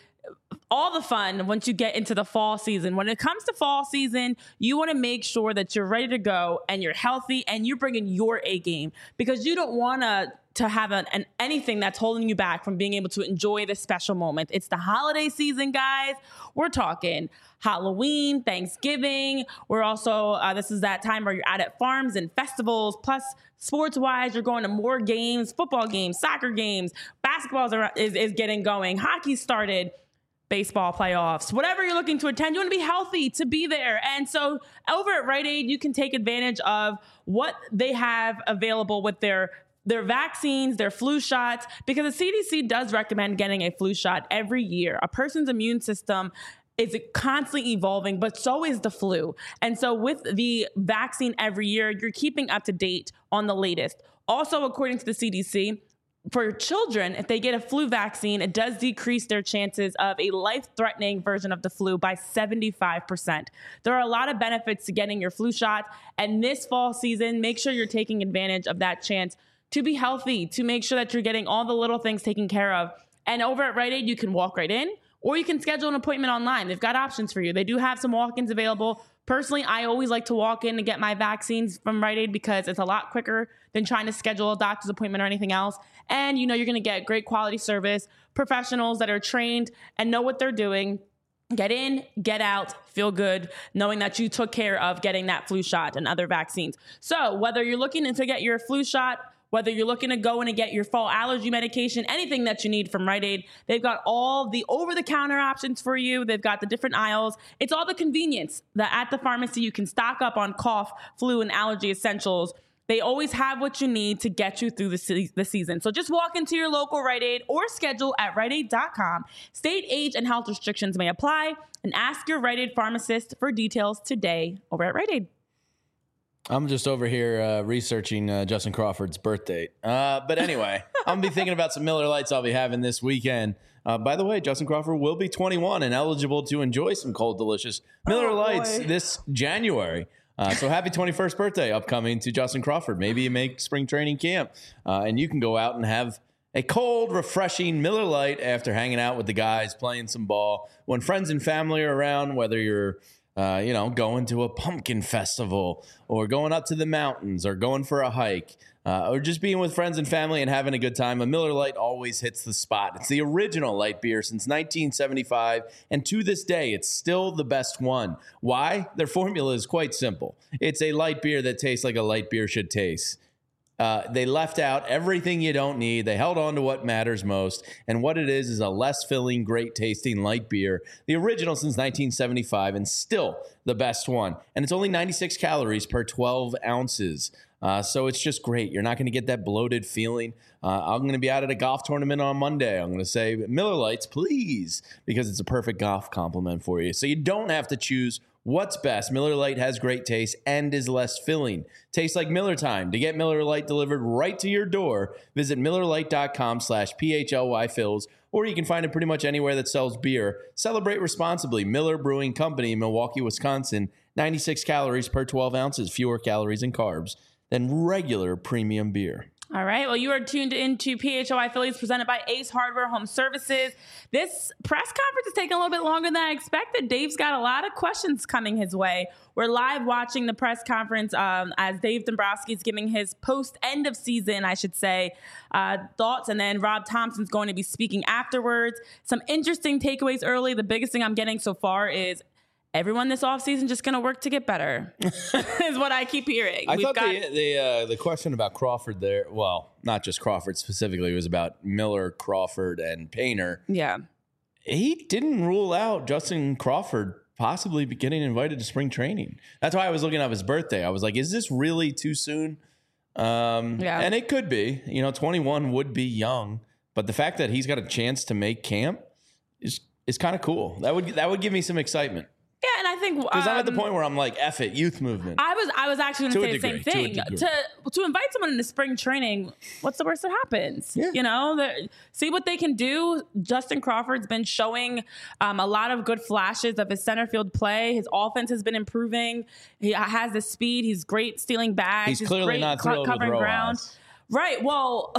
all the fun once you get into the fall season. When it comes to fall season, you want to make sure that you're ready to go and you're healthy and you're bringing your A game, because you don't want to have anything that's holding you back from being able to enjoy this special moment. It's the holiday season, guys. We're talking Halloween, Thanksgiving. We're also, this is that time where you're out at farms and festivals. Plus, sports-wise, you're going to more games, football games, soccer games, basketball is getting going. Hockey started. Baseball playoffs, whatever you're looking to attend, you want to be healthy to be there. And so over at Rite Aid, you can take advantage of what they have available with their vaccines, their flu shots, because the CDC does recommend getting a flu shot every year. A person's immune system is constantly evolving, but so is the flu. And so with the vaccine every year, you're keeping up to date on the latest. Also, according to the CDC, for children, if they get a flu vaccine, it does decrease their chances of a life-threatening version of the flu by 75%. There are a lot of benefits to getting your flu shot. And this fall season, make sure you're taking advantage of that chance to be healthy, to make sure that you're getting all the little things taken care of. And over at Rite Aid, you can walk right in, or you can schedule an appointment online. They've got options for you. They do have some walk-ins available. Personally, I always like to walk in and get my vaccines from Rite Aid because it's a lot quicker than trying to schedule a doctor's appointment or anything else. And you're going to get great quality service, professionals that are trained and know what they're doing. Get in, get out, feel good, knowing that you took care of getting that flu shot and other vaccines. So whether you're looking to get your flu shot, whether you're looking to go in and get your fall allergy medication, anything that you need from Rite Aid, they've got all the over-the-counter options for you. They've got the different aisles. It's all the convenience that at the pharmacy you can stock up on cough, flu, and allergy essentials. They always have what you need to get you through the season. So just walk into your local Rite Aid or schedule at riteaid.com. State, age, and health restrictions may apply. And ask your Rite Aid pharmacist for details today over at Rite Aid. I'm just over here researching Justin Crawford's birth date. But anyway, I'm going to be thinking about some Miller Lights I'll be having this weekend. By the way, Justin Crawford will be 21 and eligible to enjoy some cold, delicious Miller Lights this January. So happy 21st birthday upcoming to Justin Crawford. Maybe you make spring training camp and you can go out and have a cold, refreshing Miller Lite after hanging out with the guys, playing some ball. When friends and family are around, whether you're going to a pumpkin festival or going up to the mountains or going for a hike or just being with friends and family and having a good time, a Miller Lite always hits the spot. It's the original light beer since 1975, and to this day, it's still the best one. Why? Their formula is quite simple. It's a light beer that tastes like a light beer should taste. They left out everything you don't need. They held on to what matters most. And what it is a less filling, great tasting light beer. The original since 1975 and still the best one. And it's only 96 calories per 12 ounces. So it's just great. You're not going to get that bloated feeling. I'm going to be out at a golf tournament on Monday. I'm going to say, Miller Lights, please, because it's a perfect golf compliment for you. So you don't have to choose what's best. Miller Lite has great taste and is less filling. Tastes like Miller time. To get Miller Lite delivered right to your door, visit MillerLite.com/PHLYFills, or you can find it pretty much anywhere that sells beer. Celebrate responsibly. Miller Brewing Company, Milwaukee, Wisconsin. 96 calories per 12 ounces, fewer calories and carbs than regular premium beer. All right. Well, you are tuned into PHOI Phillies presented by Ace Hardware Home Services. This press conference is taking a little bit longer than I expected. Dave's got a lot of questions coming his way. We're live watching the press conference as Dave Dombrowski is giving his post-end of season, I should say, thoughts. And then Rob Thompson's going to be speaking afterwards. Some interesting takeaways early. The biggest thing I'm getting so far is everyone this offseason just going to work to get better is what I keep hearing. I thought the question about Crawford there, well, not just Crawford specifically, it was about Miller, Crawford, and Painter. Yeah. He didn't rule out Justin Crawford possibly getting invited to spring training. That's why I was looking up his birthday. I was like, is this really too soon? And it could be. 21 would be young. But the fact that he's got a chance to make camp is kind of cool. That would give me some excitement. Yeah, and I think because I'm at the point where I'm like, F it, youth movement. I was actually going to say the same thing. To invite someone into spring training, what's the worst that happens? Yeah. See what they can do. Justin Crawford's been showing a lot of good flashes of his center field play. His offense has been improving. He has the speed. He's great stealing bags. He's clearly not thrilled with Rojas. Ground. Right. Well,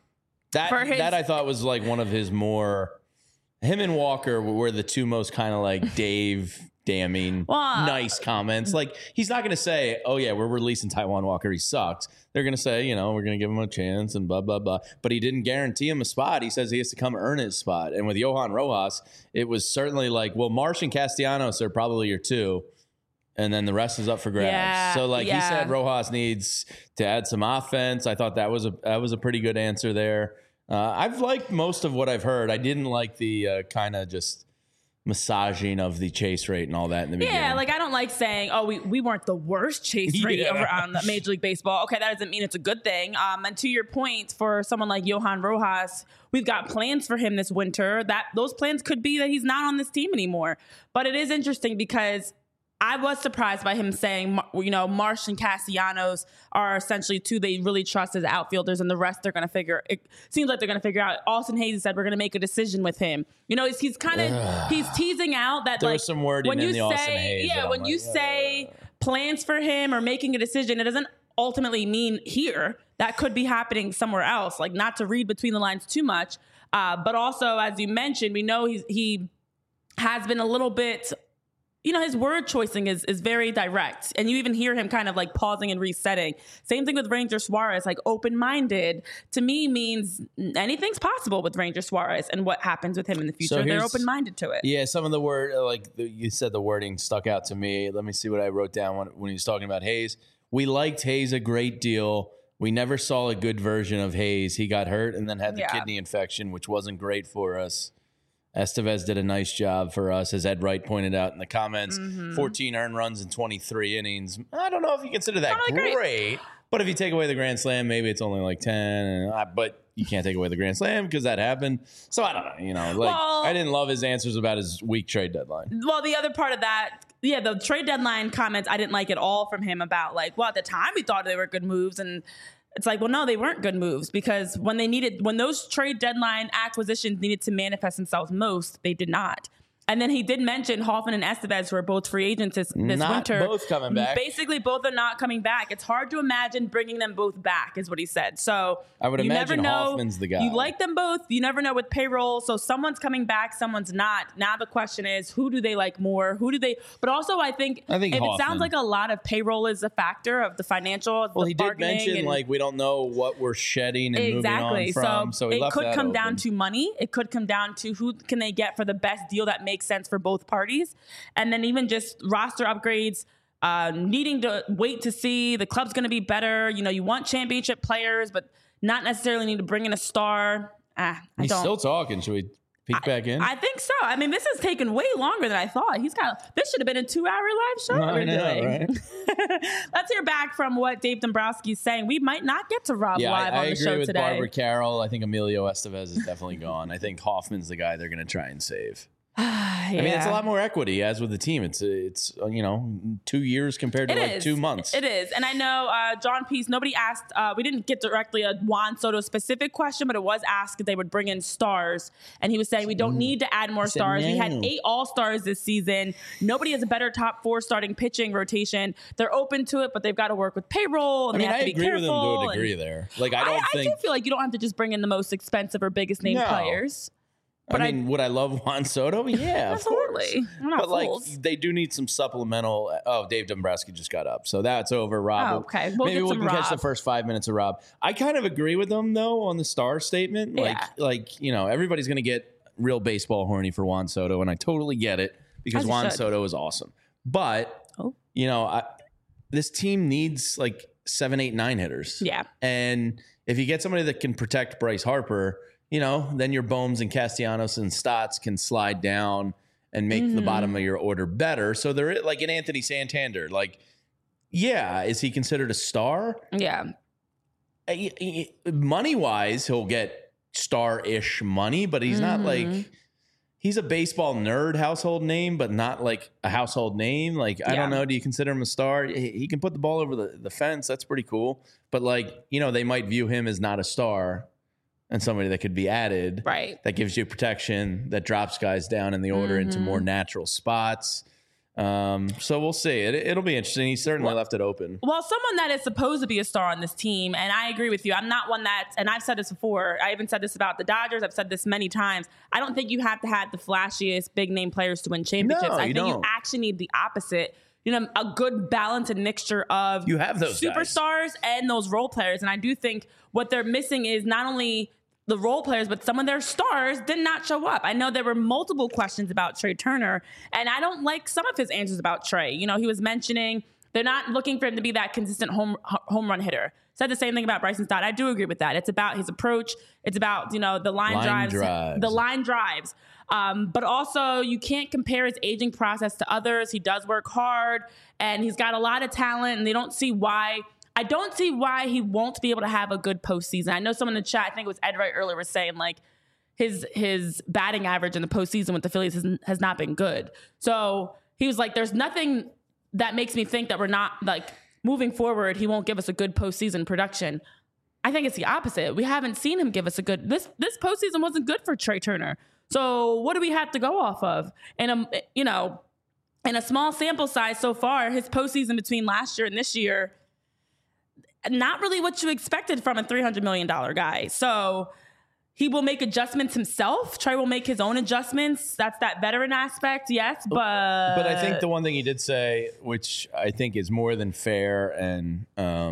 that I thought was like one of his more. Him and Walker were the two most kind of like Dave. Damning, nice comments. Like, he's not going to say, oh, yeah, we're releasing Taijuan Walker. He sucks. They're going to say, we're going to give him a chance and blah, blah, blah. But he didn't guarantee him a spot. He says he has to come earn his spot. And with Johan Rojas, it was certainly like, well, Marsh and Castellanos are probably your two. And then the rest is up for grabs. Yeah, so, he said Rojas needs to add some offense. I thought that was a pretty good answer there. I've liked most of what I've heard. I didn't like the kind of just massaging of the chase rate and all that in the beginning. Yeah, I don't like saying, oh, we weren't the worst chase rate around Major League Baseball. Okay, that doesn't mean it's a good thing. And to your point, for someone like Johan Rojas, we've got plans for him this winter. Those plans could be that he's not on this team anymore. But it is interesting because I was surprised by him saying, Marsh and Castellanos are essentially two they really trust as outfielders, and the rest they're going to figure. It seems like they're going to figure out. Austin Hayes said we're going to make a decision with him. He's kind of he's teasing out that there was some wording in the Austin Hayes. Yeah, when you say plans for him or making a decision, it doesn't ultimately mean here. That could be happening somewhere else. Not to read between the lines too much, but also as you mentioned, we know he has been a little bit. His word choicing is very direct. And you even hear him kind of pausing and resetting. Same thing with Ranger Suarez, open-minded to me means anything's possible with Ranger Suarez and what happens with him in the future. So they're open-minded to it. Yeah, some of the word, you said the wording stuck out to me. Let me see what I wrote down when he was talking about Hayes. We liked Hayes a great deal. We never saw a good version of Hayes. He got hurt and then had the kidney infection, which wasn't great for us. Estevez did a nice job for us, as Ed Wright pointed out in the comments. 14 earned runs in 23 innings. I don't know if you consider that great, but if you take away the Grand Slam, maybe it's only 10. But you can't take away the Grand Slam because that happened. So I don't know. I didn't love his answers about his weak trade deadline. Well, the other part of that, the trade deadline comments, I didn't like at all from him about at the time we thought they were good moves, and it's no, they weren't good moves because when those trade deadline acquisitions needed to manifest themselves most, they did not. And then he did mention Hoffman and Estevez, who are both free agents this winter. Not both coming back. Basically, both are not coming back. It's hard to imagine bringing them both back, is what he said. So I would imagine Hoffman's the guy. You like them both. You never know with payroll. So someone's coming back, someone's not. Now the question is, who do they like more? Who do they? But also, I think if Hoffman. It sounds like a lot of payroll is a factor of the financial. Well, he did mention we don't know what we're shedding and moving on from. So it could come down to money. It could come down to who can they get for the best deal that makes sense for both parties, and then even just roster upgrades, needing to wait to see the club's going to be better. You want championship players, but not necessarily need to bring in a star. He's still talking. Should we peek back in? I think so. I mean, this has taken way longer than I thought. This should have been a 2-hour live show. I know, right? Let's hear back from what Dave Dombrowski is saying. We might not get to Rob live on the show today. I agree with Barbara Carroll. I think Emilio Estevez is definitely gone. I think Hoffman's the guy they're going to try and save. I mean, it's a lot more equity as with the team. It's 2 years compared to 2 months. It is. And I know John Peace, nobody asked, we didn't get directly a Juan Soto specific question, but it was asked if they would bring in stars. And he was saying we don't need to add more stars. We had 8 all-stars this season. Nobody has a better top 4 starting pitching rotation. They're open to it, but they've got to work with payroll. And they have to be careful. I agree with them to a degree there. Like, I do feel like you don't have to just bring in the most expensive or biggest name players. But would I love Juan Soto? Yeah, of course. We're not but fools. they do need some supplemental. Oh, Dave Dombrowski just got up, so that's over. Rob, okay. Maybe we can catch the first 5 minutes of Rob. I kind of agree with them though on the star statement. Everybody's going to get real baseball horny for Juan Soto, and I totally get it because Juan Soto is awesome. But this team needs like 7, 8, 9 hitters. Yeah, and if you get somebody that can protect Bryce Harper, then your Bohms and Castellanos and Stotts can slide down and make the bottom of your order better. So they're like an Anthony Santander. Like, is he considered a star? Yeah. Money-wise, he'll get star-ish money, but he's not like... He's a baseball nerd household name, but not like a household name. Like, I don't know. Do you consider him a star? He can put the ball over the fence. That's pretty cool. But they might view him as not a star and somebody that could be added. Right. That gives you protection, that drops guys down in the order into more natural spots. So we'll see. It'll be interesting. He certainly left it open. Well, someone that is supposed to be a star on this team, and I agree with you. I'm not one that, and I've said this before. I even said this about the Dodgers. I've said this many times. I don't think you have to have the flashiest big name players to win championships. No, I think don't. you actually need the opposite. A good balance and mixture of you have those superstars and those role players. And I do think what they're missing is not only the role players, but some of their stars did not show up. I know there were multiple questions about Trey Turner, and I don't like some of his answers about Trey. He was mentioning they're not looking for him to be that consistent home run hitter. Said the same thing about Bryson Stott. I do agree with that. It's about his approach. It's about, the line drives. The line drives. But also you can't compare his aging process to others. He does work hard and he's got a lot of talent, and I don't see why he won't be able to have a good postseason. I know someone in the chat, I think it was Ed Wright earlier, was saying like his batting average in the postseason with the Phillies has not been good. So he was like, there's nothing that makes me think that we're not like moving forward, he won't give us a good postseason production. I think it's the opposite. We haven't seen him give us a good, this postseason wasn't good for Trey Turner. So what do we have to go off of? And, in a small sample size so far, his postseason between last year and this year, not really what you expected from a $300 million guy. So he will make adjustments himself. Trey will make his own adjustments. That's that veteran aspect, yes. But I think the one thing he did say, which I think is more than fair, and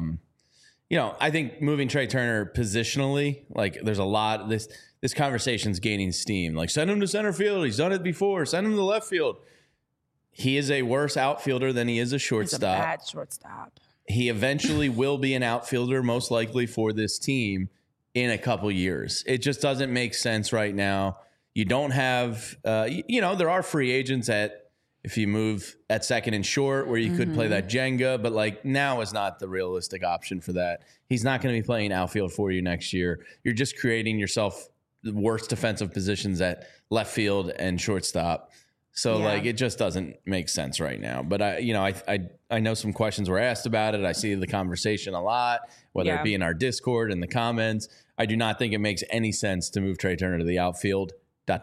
I think moving Trey Turner positionally, like there's a lot of this conversation's gaining steam. Like, send him to center field. He's done it before. Send him to left field. He is a worse outfielder than he is a shortstop. He's a bad shortstop. He eventually will be an outfielder, most likely for this team in a couple years. It just doesn't make sense right now. You don't have, there are free agents if you move at second and short where you could play that Jenga, but like now is not the realistic option for that. He's not going to be playing outfield for you next year. You're just creating yourself the worst defensive positions at left field and shortstop. So it just doesn't make sense right now. But I know some questions were asked about it. I see the conversation a lot, whether it be in our Discord and the comments. I do not think it makes any sense to move Trey Turner to the outfield. ...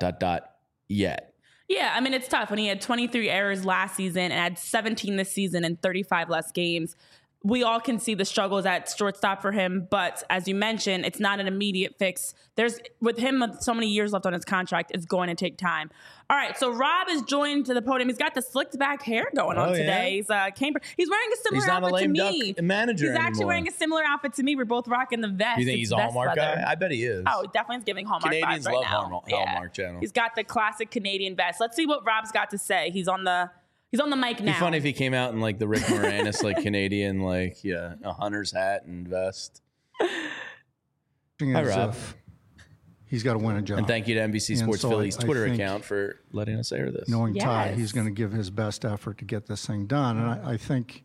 Yet. Yeah, I mean, it's tough when he had 23 errors last season and had 17 this season and 35 less games. We all can see the struggles at shortstop for him, but as you mentioned, it's not an immediate fix. With him with so many years left on his contract, it's going to take time. All right, so Rob is joined to the podium. He's got the slicked back hair going on today. Yeah. He's wearing a similar outfit to me. Manager He's actually wearing a similar outfit to me. We're both rocking the vest. You think he's a Hallmark guy? I bet he is. Oh, definitely is giving Hallmark Canadians vibes right love now. Hallmark Channel. He's got the classic Canadian vest. Let's see what Rob's got to say. He's on the mic now. It'd be funny if he came out in like the Rick Moranis, like Canadian, a hunter's hat and vest. Hi, Rob. He's got to win a job. And thank you to NBC Sports Philly's Twitter account for letting us air this. Knowing Ty, he's going to give his best effort to get this thing done. And I think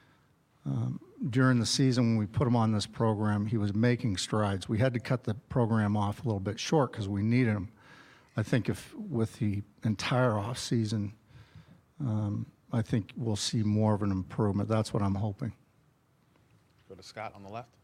during the season when we put him on this program, he was making strides. We had to cut the program off a little bit short because we needed him. I think if with the entire off season, I think we'll see more of an improvement. That's what I'm hoping. Go to Scott on the left.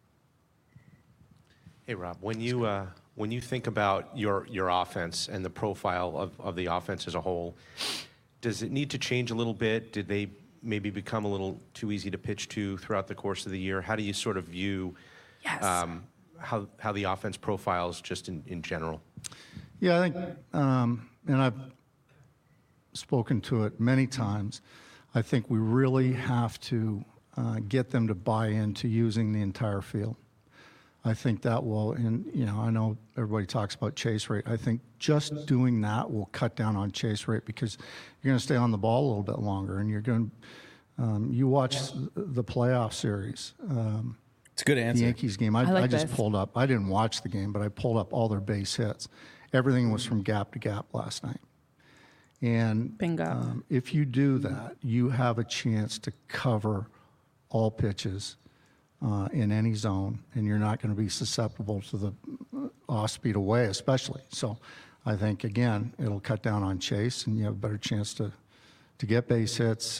Hey, Rob, when you think about your offense and the profile of the offense as a whole, does it need to change a little bit? Did they maybe become a little too easy to pitch to throughout the course of the year? How do you sort of view how the offense profiles just in general? Yeah, I think, and I've spoken to it many times, I think we really have to get them to buy into using the entire field. I think that will, and I know everybody talks about chase rate. I think just doing that will cut down on chase rate because you're going to stay on the ball a little bit longer, and you're going to, you watch the playoff series. It's a good answer. The Yankees game. I just pulled up. I didn't watch the game, but I pulled up all their base hits. Everything was from gap to gap last night. And bingo. If you do that, you have a chance to cover all pitches in any zone, and you're not going to be susceptible to the off-speed away, especially. So I think, again, it'll cut down on chase, and you have a better chance to get base hits.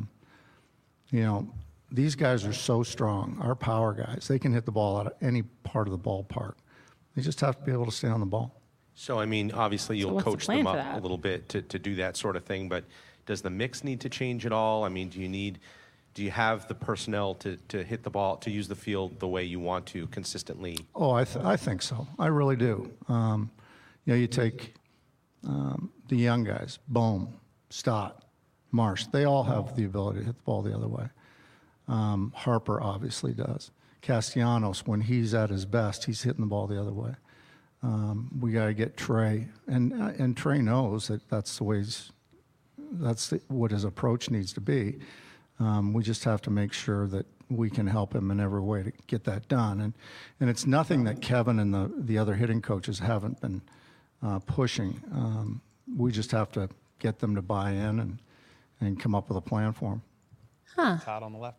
These guys are so strong. Our power guys, they can hit the ball out of any part of the ballpark. They just have to be able to stay on the ball. So, I mean, obviously you'll what's the coach plan them for up that? a little bit to do that sort of thing, but does the mix need to change at all? I mean, do you have the personnel to hit the ball, to use the field the way you want to consistently? Oh, I think so. I really do. You take the young guys, Bohm, Stott, Marsh. They all have the ability to hit the ball the other way. Harper obviously does. Castellanos, when he's at his best, he's hitting the ball the other way. We got to get Trey, and Trey knows that that's what his approach needs to be. We just have to make sure that we can help him in every way to get that done. And it's nothing that Kevin and the other hitting coaches haven't been pushing. We just have to get them to buy in and come up with a plan for them. Todd on the left.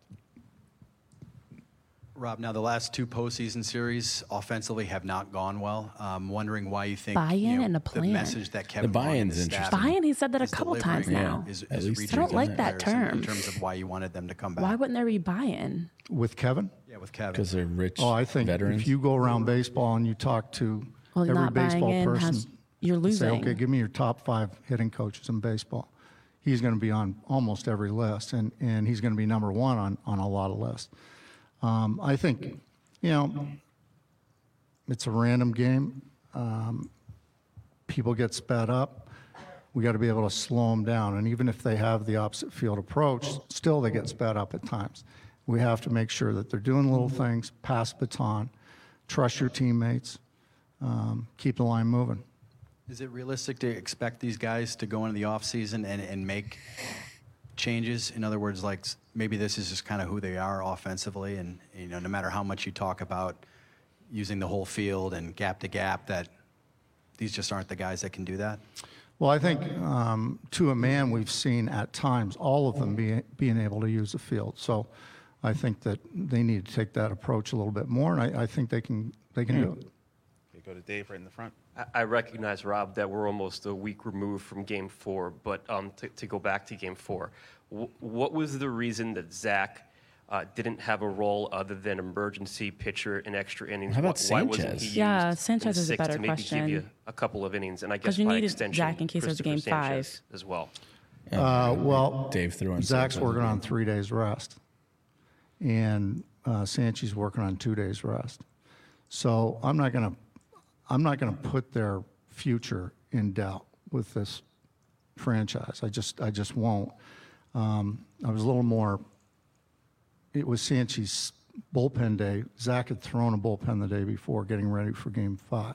Rob, now the last two postseason series offensively have not gone well. I'm wondering why you think Buy-in and a the plan. message that Kevin The wanted buy-in's the staff interesting. Buy-in, he said that a is couple delivering times now. is At least reaching I don't like that comparison term. in terms of why you wanted them to come back. Why wouldn't there be buy-in? With Kevin? Yeah, with Kevin. Because they're rich Oh, I think veterans. if you go around baseball and you talk to Well, every not buying baseball in person, you're say, losing. okay, give me your top 5 hitting coaches in baseball. He's going to be on almost every list, and he's going to be number 1 on a lot of lists. I think, it's a random game. People get sped up. We got to be able to slow them down. And even if they have the opposite field approach, still they get sped up at times. We have to make sure that they're doing little things, pass baton, trust your teammates, keep the line moving. Is it realistic to expect these guys to go into the offseason and make changes? In other words, like maybe this is just kind of who they are offensively, and no matter how much you talk about using the whole field and gap to gap, that these just aren't the guys that can do that? Well, I think to a man, we've seen at times all of them being able to use the field. So I think that they need to take that approach a little bit more, and I think they can do it. Okay, go to Dave right in the front. I recognize, Rob, that we're almost a week removed from Game 4, but to go back to Game 4, what was the reason that Zach didn't have a role other than emergency pitcher in extra innings? How about Why wasn't Sanchez? he used Yeah, in Sanchez is a 6 better to maybe question. give you a couple of innings, and I 'Cause guess you by needed extension, Zach in case there was a Christopher Game Sanchez 5. as well. Well, Dave threw in Zach's Sanchez working again. on 3 days rest, and Sanchez working on 2 days rest. So I'm not gonna put their future in doubt with this franchise. I just won't. I was a little more. It was Sanchez's bullpen day. Zach had thrown a bullpen the day before, getting ready for Game 5.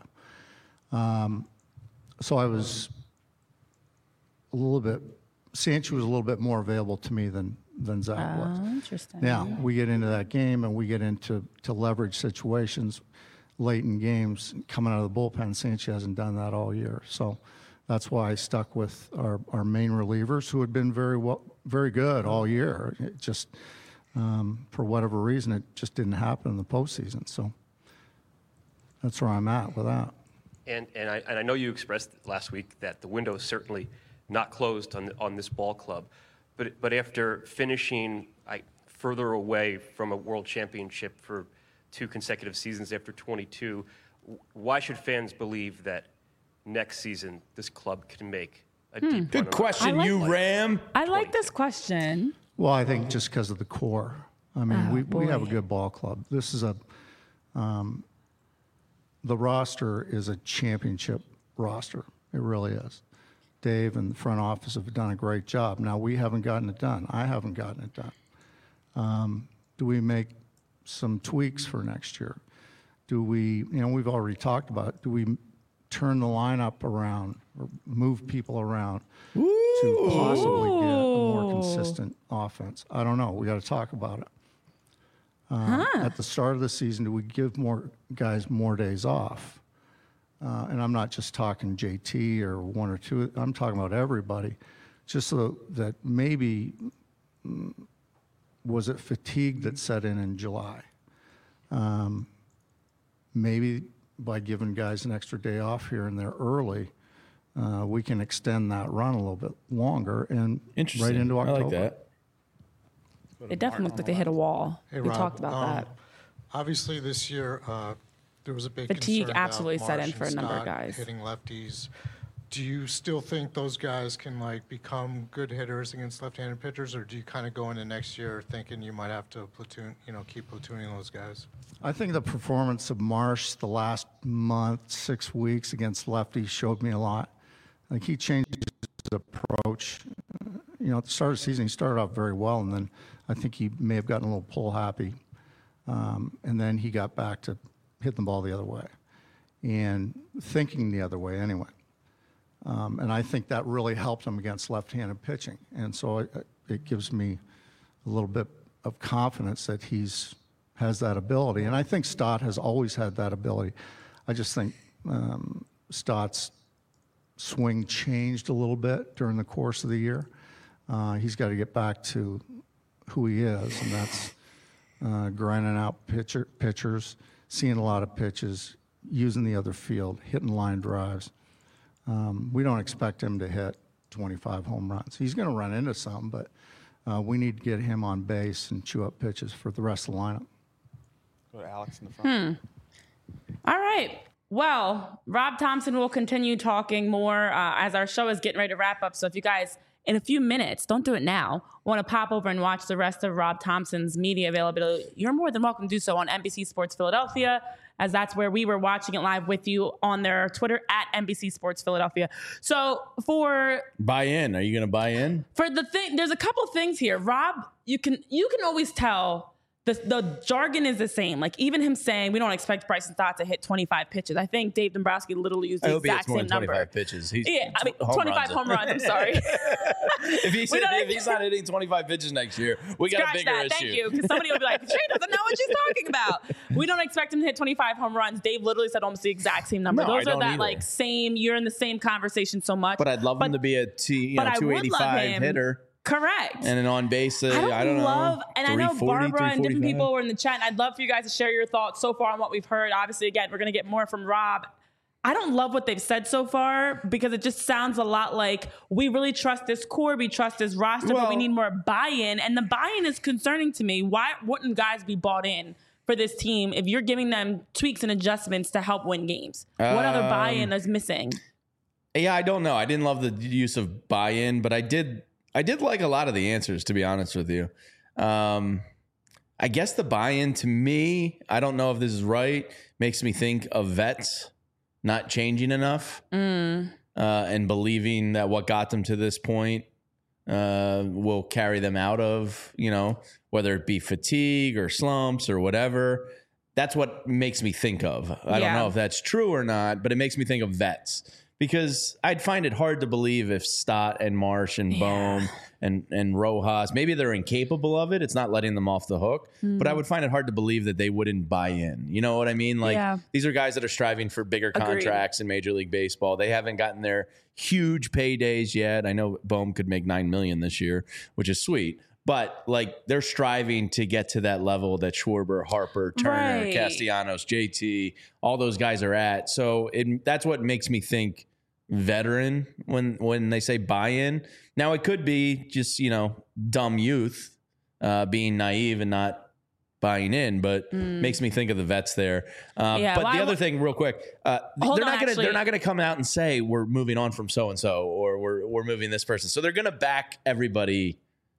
So I was a little bit. Sanchez was a little bit more available to me than Zach was. Oh, interesting. Now we get into that game and we get into leverage situations late in games coming out of the bullpen. Sanchez hasn't done that all year, so that's why I stuck with our main relievers who had been very good all year. It just for whatever reason, it just didn't happen in the postseason. So that's where I'm at with that. And I know you expressed last week that the window is certainly not closed on this ball club, but after finishing further away from a world championship for 2 consecutive seasons after 22, why should fans believe that next season this club can make a deep Good question, Ram. I like this question. Well, I think just because of the core. I mean, we have a good ball club. This is the roster is a championship roster. It really is. Dave and the front office have done a great job. Now, we haven't gotten it done. I haven't gotten it done. Do we make some tweaks for next year? Do we, we've already talked about it. Do we turn the lineup around or move people around to possibly get a more consistent offense? I don't know. We got to talk about it. At the start of the season, do we give more guys more days off? And I'm not just talking JT or 1 or 2. I'm talking about everybody. Just so that maybe, was it fatigue that set in July? Maybe by giving guys an extra day off here and there early, we can extend that run a little bit longer and right into October. I like that. It definitely looked like they hit a wall. Hey, We Rob, talked about that. Obviously, this year there was a big Fatigue concern absolutely about set in Marsh for a and number of Scott guys. hitting lefties. Do you still think those guys can become good hitters against left-handed pitchers, or do you kind of go into next year thinking you might have to platoon, keep platooning those guys? I think the performance of Marsh the last month, 6 weeks against lefties showed me a lot. I think he changed his approach. At the start of the season, he started off very well, and then I think he may have gotten a little pull happy. And then he got back to hitting the ball the other way and thinking the other way anyway. And I think that really helped him against left-handed pitching. And so it gives me a little bit of confidence that has that ability. And I think Stott has always had that ability. I just think Stott's swing changed a little bit during the course of the year. He's got to get back to who he is, and that's grinding out pitchers, seeing a lot of pitches, using the other field, hitting line drives. We don't expect him to hit 25 home runs. He's going to run into some, but we need to get him on base and chew up pitches for the rest of the lineup. Go to Alex in the front. All right. Well, Rob Thompson will continue talking more as our show is getting ready to wrap up. So if you guys, in a few minutes, don't do it now, want to pop over and watch the rest of Rob Thompson's media availability, you're more than welcome to do so on NBC Sports Philadelphia, as that's where we were watching it live with you on their Twitter at NBC Sports Philadelphia. So for Buy in. Are you going to buy in? For the thing, there's a couple things here. Rob, you can always tell the jargon is the same. Like even him saying we don't expect Bryson Stott to hit 25 pitches. I think Dave Dombrowski literally used the exact same number. 25 pitches. He's 25 home runs. I'm sorry. if he's not hitting 25 pitches next year, we got a bigger issue. Thank you, because somebody will be like, Trey doesn't know what she's talking about. We don't expect him to hit 25 home runs. Dave literally said almost the exact same number. No, Those I are don't that either. like same. You're in the same conversation so much. But I'd love him to be a 285 hitter. Correct. And an on base, I don't know. And I know Barbara and different people were in the chat. And I'd love for you guys to share your thoughts so far on what we've heard. Obviously, again, we're going to get more from Rob. I don't love what they've said so far because it just sounds a lot like we really trust this core, we trust this roster, but we need more buy-in. And the buy-in is concerning to me. Why wouldn't guys be bought in for this team if you're giving them tweaks and adjustments to help win games? What other buy-in is missing? Yeah, I don't know. I didn't love the use of buy-in, but I did like a lot of the answers, to be honest with you. I guess the buy-in to me, I don't know if this is right, makes me think of vets not changing enough and believing that what got them to this point will carry them out of, whether it be fatigue or slumps or whatever. That's what makes me think of. I don't know if that's true or not, but it makes me think of vets. Because I'd find it hard to believe if Stott and Marsh and Bohm and Rojas, maybe they're incapable of it. It's not letting them off the hook. But I would find it hard to believe that they wouldn't buy in. You know what I mean? These are guys that are striving for bigger contracts in Major League Baseball. They haven't gotten their huge paydays yet. I know Bohm could make $9 million this year, which is sweet. But like they're striving to get to that level that Schwarber, Harper, Turner, Right. Castellanos, JT, all those guys are at. So that's what makes me think veteran when they say buy-in. Now it could be just, dumb youth being naive and not buying in, but makes me think of the vets there. But the other thing, real quick, they're not gonna come out and say we're moving on from so and so or we're moving this person. So they're gonna back everybody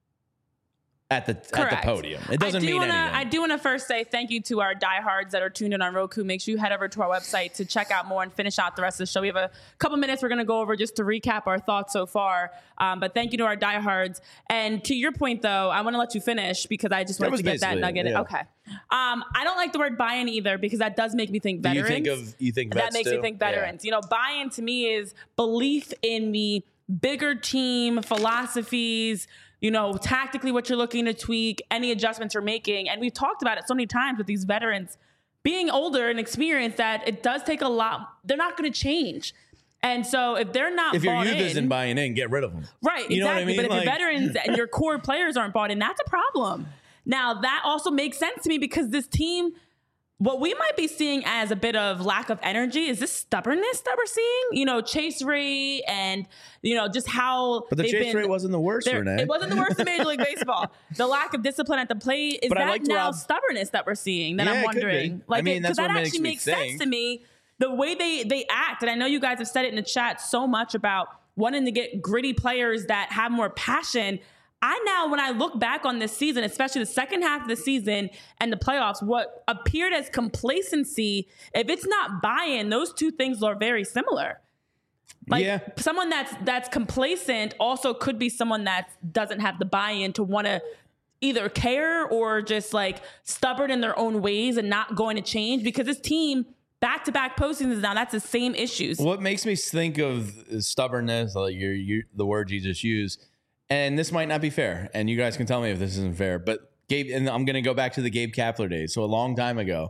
at the podium. It doesn't mean anything. I do want to first say thank you to our diehards that are tuned in on Roku. Make sure you head over to our website to check out more and finish out the rest of the show. We have a couple minutes we're going to go over just to recap our thoughts so far. But thank you to our diehards. And to your point, though, I want to let you finish because I just wanted to get that nugget. Yeah. Okay. I don't like the word buy-in either because that does make me think veterans. You think vets that makes me think veterans. Yeah. Buy-in to me is belief in the bigger team philosophies, tactically what you're looking to tweak, any adjustments you're making. And we've talked about it so many times with these veterans being older and experienced that it does take a lot. They're not going to change. And so if they're not if your youth isn't buying in, get rid of them. Right, you exactly. know what I mean? But if your veterans and your core players aren't bought in, that's a problem. Now, that also makes sense to me because this team, what we might be seeing as a bit of lack of energy is this stubbornness that we're seeing. Chase rate and, just how But the chase rate wasn't the worst, Renee. It wasn't the worst in Major League Baseball. The lack of discipline at the plate, is that now stubbornness that we're seeing that I'm wondering? Because that actually makes sense to me. The way they act, and I know you guys have said it in the chat so much about wanting to get gritty players that have more passion. When I look back on this season, especially the second half of the season and the playoffs, what appeared as complacency, if it's not buy-in, those two things are very similar. Someone that's complacent also could be someone that doesn't have the buy-in to want to either care or just stubborn in their own ways and not going to change because this team back-to-back postseasons now, that's the same issues. What makes me think of stubbornness, like the word you just used, and this might not be fair, and you guys can tell me if this isn't fair, but and I'm going to go back to the Gabe Kapler days. So a long time ago,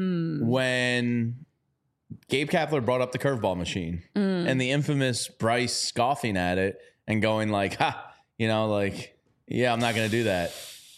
when Gabe Kapler brought up the curveball machine and the infamous Bryce scoffing at it and going yeah, I'm not going to do that.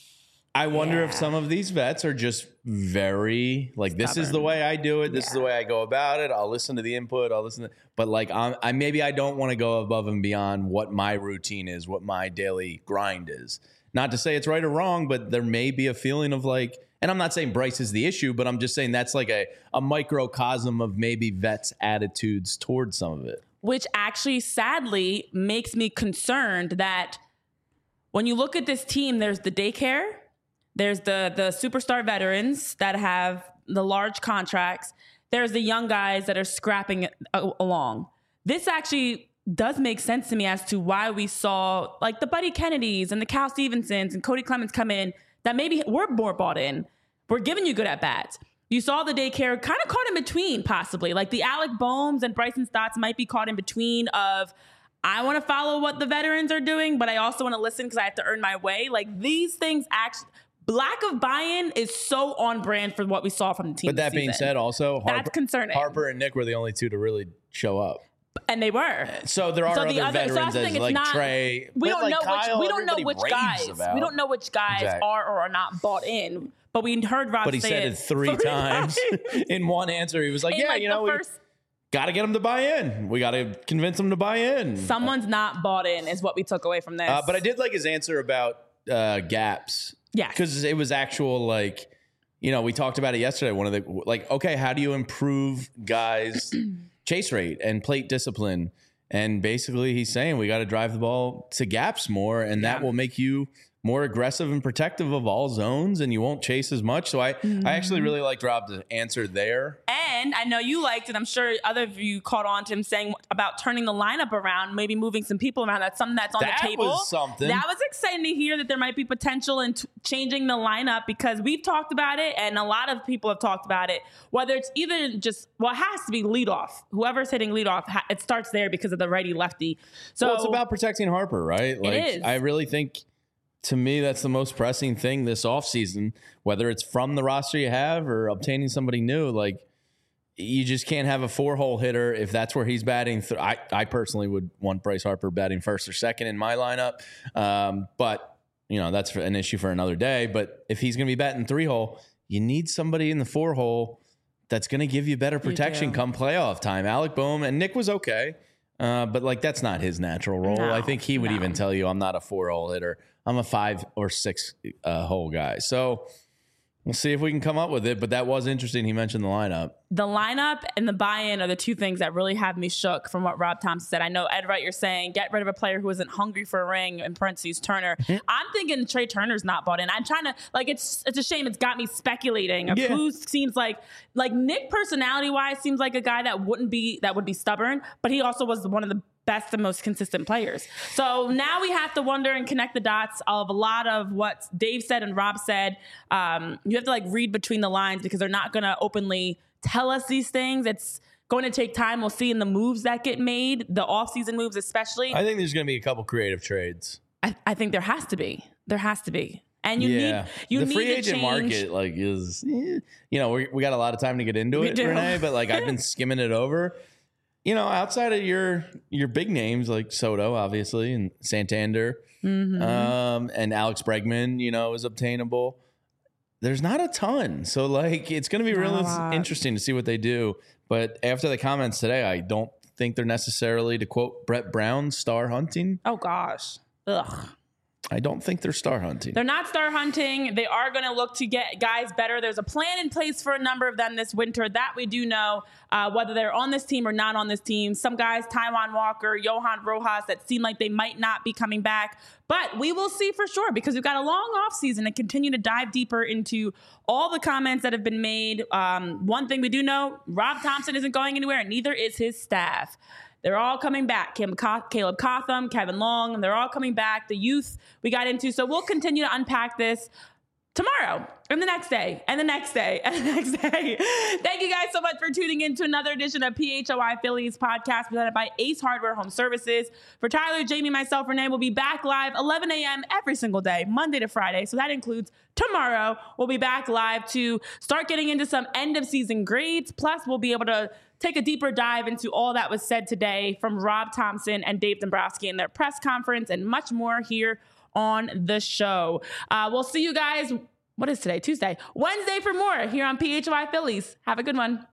I wonder if some of these vets are just very this is the way I do it. This is the way I go about it. I'll listen to the input. But maybe I don't want to go above and beyond what my routine is, what my daily grind is. Not to say it's right or wrong, but there may be a feeling of and I'm not saying Bryce is the issue, but I'm just saying that's a microcosm of maybe vets' attitudes towards some of it. Which actually sadly makes me concerned that when you look at this team, there's the daycare, there's the superstar veterans that have the large contracts. There's the young guys that are scrapping along. This actually does make sense to me as to why we saw the Buddy Kennedys and the Cal Stevensons and Cody Clemens come in that maybe were more bought in. We're giving you good at bats. You saw the daycare kind of caught in between, possibly. The Alec Boehms and Bryson Stotts might be caught in between of, I want to follow what the veterans are doing, but I also want to listen because I have to earn my way. These things actually... Lack of buy-in is so on brand for what we saw from the team. But that being said, also, that's concerning. Harper and Nick were the only two to really show up. And they were. So there are other veterans as Trey. We don't know which guys. We don't know which guys are or are not bought in. But we heard Rob say it. But he said it three times in one answer. He was like, got to get them to buy in. We got to convince them to buy in. Someone's not bought in is what we took away from this. But I did like his answer about gaps. Yeah. Because it was actual, we talked about it yesterday. One of the, okay, how do you improve guys' chase rate and plate discipline? And basically he's saying we got to drive the ball to gaps more, and that will make you more aggressive and protective of all zones, and you won't chase as much. So I actually really liked Rob's answer there. And I know you liked it. I'm sure other of you caught on to him saying about turning the lineup around, maybe moving some people around. That's something that's on the table. That was something. That was exciting to hear that there might be potential in changing the lineup because we've talked about it and a lot of people have talked about it. Whether it's either just, it has to be leadoff. Whoever's hitting leadoff, it starts there because of the righty-lefty. So it's about protecting Harper, right? It is. I really think... To me, that's the most pressing thing this offseason, whether it's from the roster you have or obtaining somebody new. You just can't have a 4-hole hitter if that's where he's batting. I personally would want Bryce Harper batting first or second in my lineup. But that's an issue for another day. But if he's going to be batting 3-hole, you need somebody in the 4-hole that's going to give you better protection come playoff time. Alec Bohm and Nick was okay, but like that's not his natural role. I think he would even tell you I'm not a 4-hole hitter. I'm a 5 or 6 hole guy. So we'll see if we can come up with it. But that was interesting. He mentioned the lineup. The lineup and the buy-in are the two things that really have me shook from what Rob Thompson said. I know, Ed Wright, you're saying get rid of a player who isn't hungry for a ring, in parentheses, Turner. I'm thinking Trey Turner's not bought in. I'm trying to, it's a shame. It's got me speculating of who seems like Nick personality-wise seems like a guy that would be stubborn, but he also was one of the best and most consistent players. So now we have to wonder and connect the dots of a lot of what Dave said and Rob said. You have to read between the lines because they're not going to openly tell us these things. It's going to take time. We'll see in the moves that get made, the offseason moves especially. I think there's going to be a couple creative trades. I think there has to be. There has to be. And you need the free agent market is we got a lot of time to get into it, Renee, but I've been skimming it over. Outside of your big names like Soto, obviously, and Santander, and Alex Bregman, is obtainable. There's not a ton. So, it's going to be really interesting to see what they do. But after the comments today, I don't think they're necessarily, to quote Brett Brown, star hunting. Oh, gosh. Ugh. I don't think they're star hunting. They're not star hunting. They are going to look to get guys better. There's a plan in place for a number of them this winter. That we do know, whether they're on this team or not on this team. Some guys, Taijuan Walker, Johan Rojas, that seem like they might not be coming back. But we will see for sure because we've got a long offseason to continue to dive deeper into all the comments that have been made. One thing we do know, Rob Thompson isn't going anywhere, and neither is his staff. They're all coming back. Caleb Cotham, Kevin Long, they're all coming back. The youth we got into. So we'll continue to unpack this tomorrow and the next day and the next day and the next day. Thank you guys so much for tuning in to another edition of PHOI Phillies podcast presented by Ace Hardware Home Services. For Tyler, Jamie, myself, Renee, we'll be back live 11 a.m. every single day, Monday to Friday. So that includes tomorrow. We'll be back live to start getting into some end of season grades. Plus, we'll be able to take a deeper dive into all that was said today from Rob Thompson and Dave Dombrowski in their press conference and much more here on the show. We'll see you guys, what is today? Tuesday. Wednesday for more here on PHOI Phillies. Have a good one.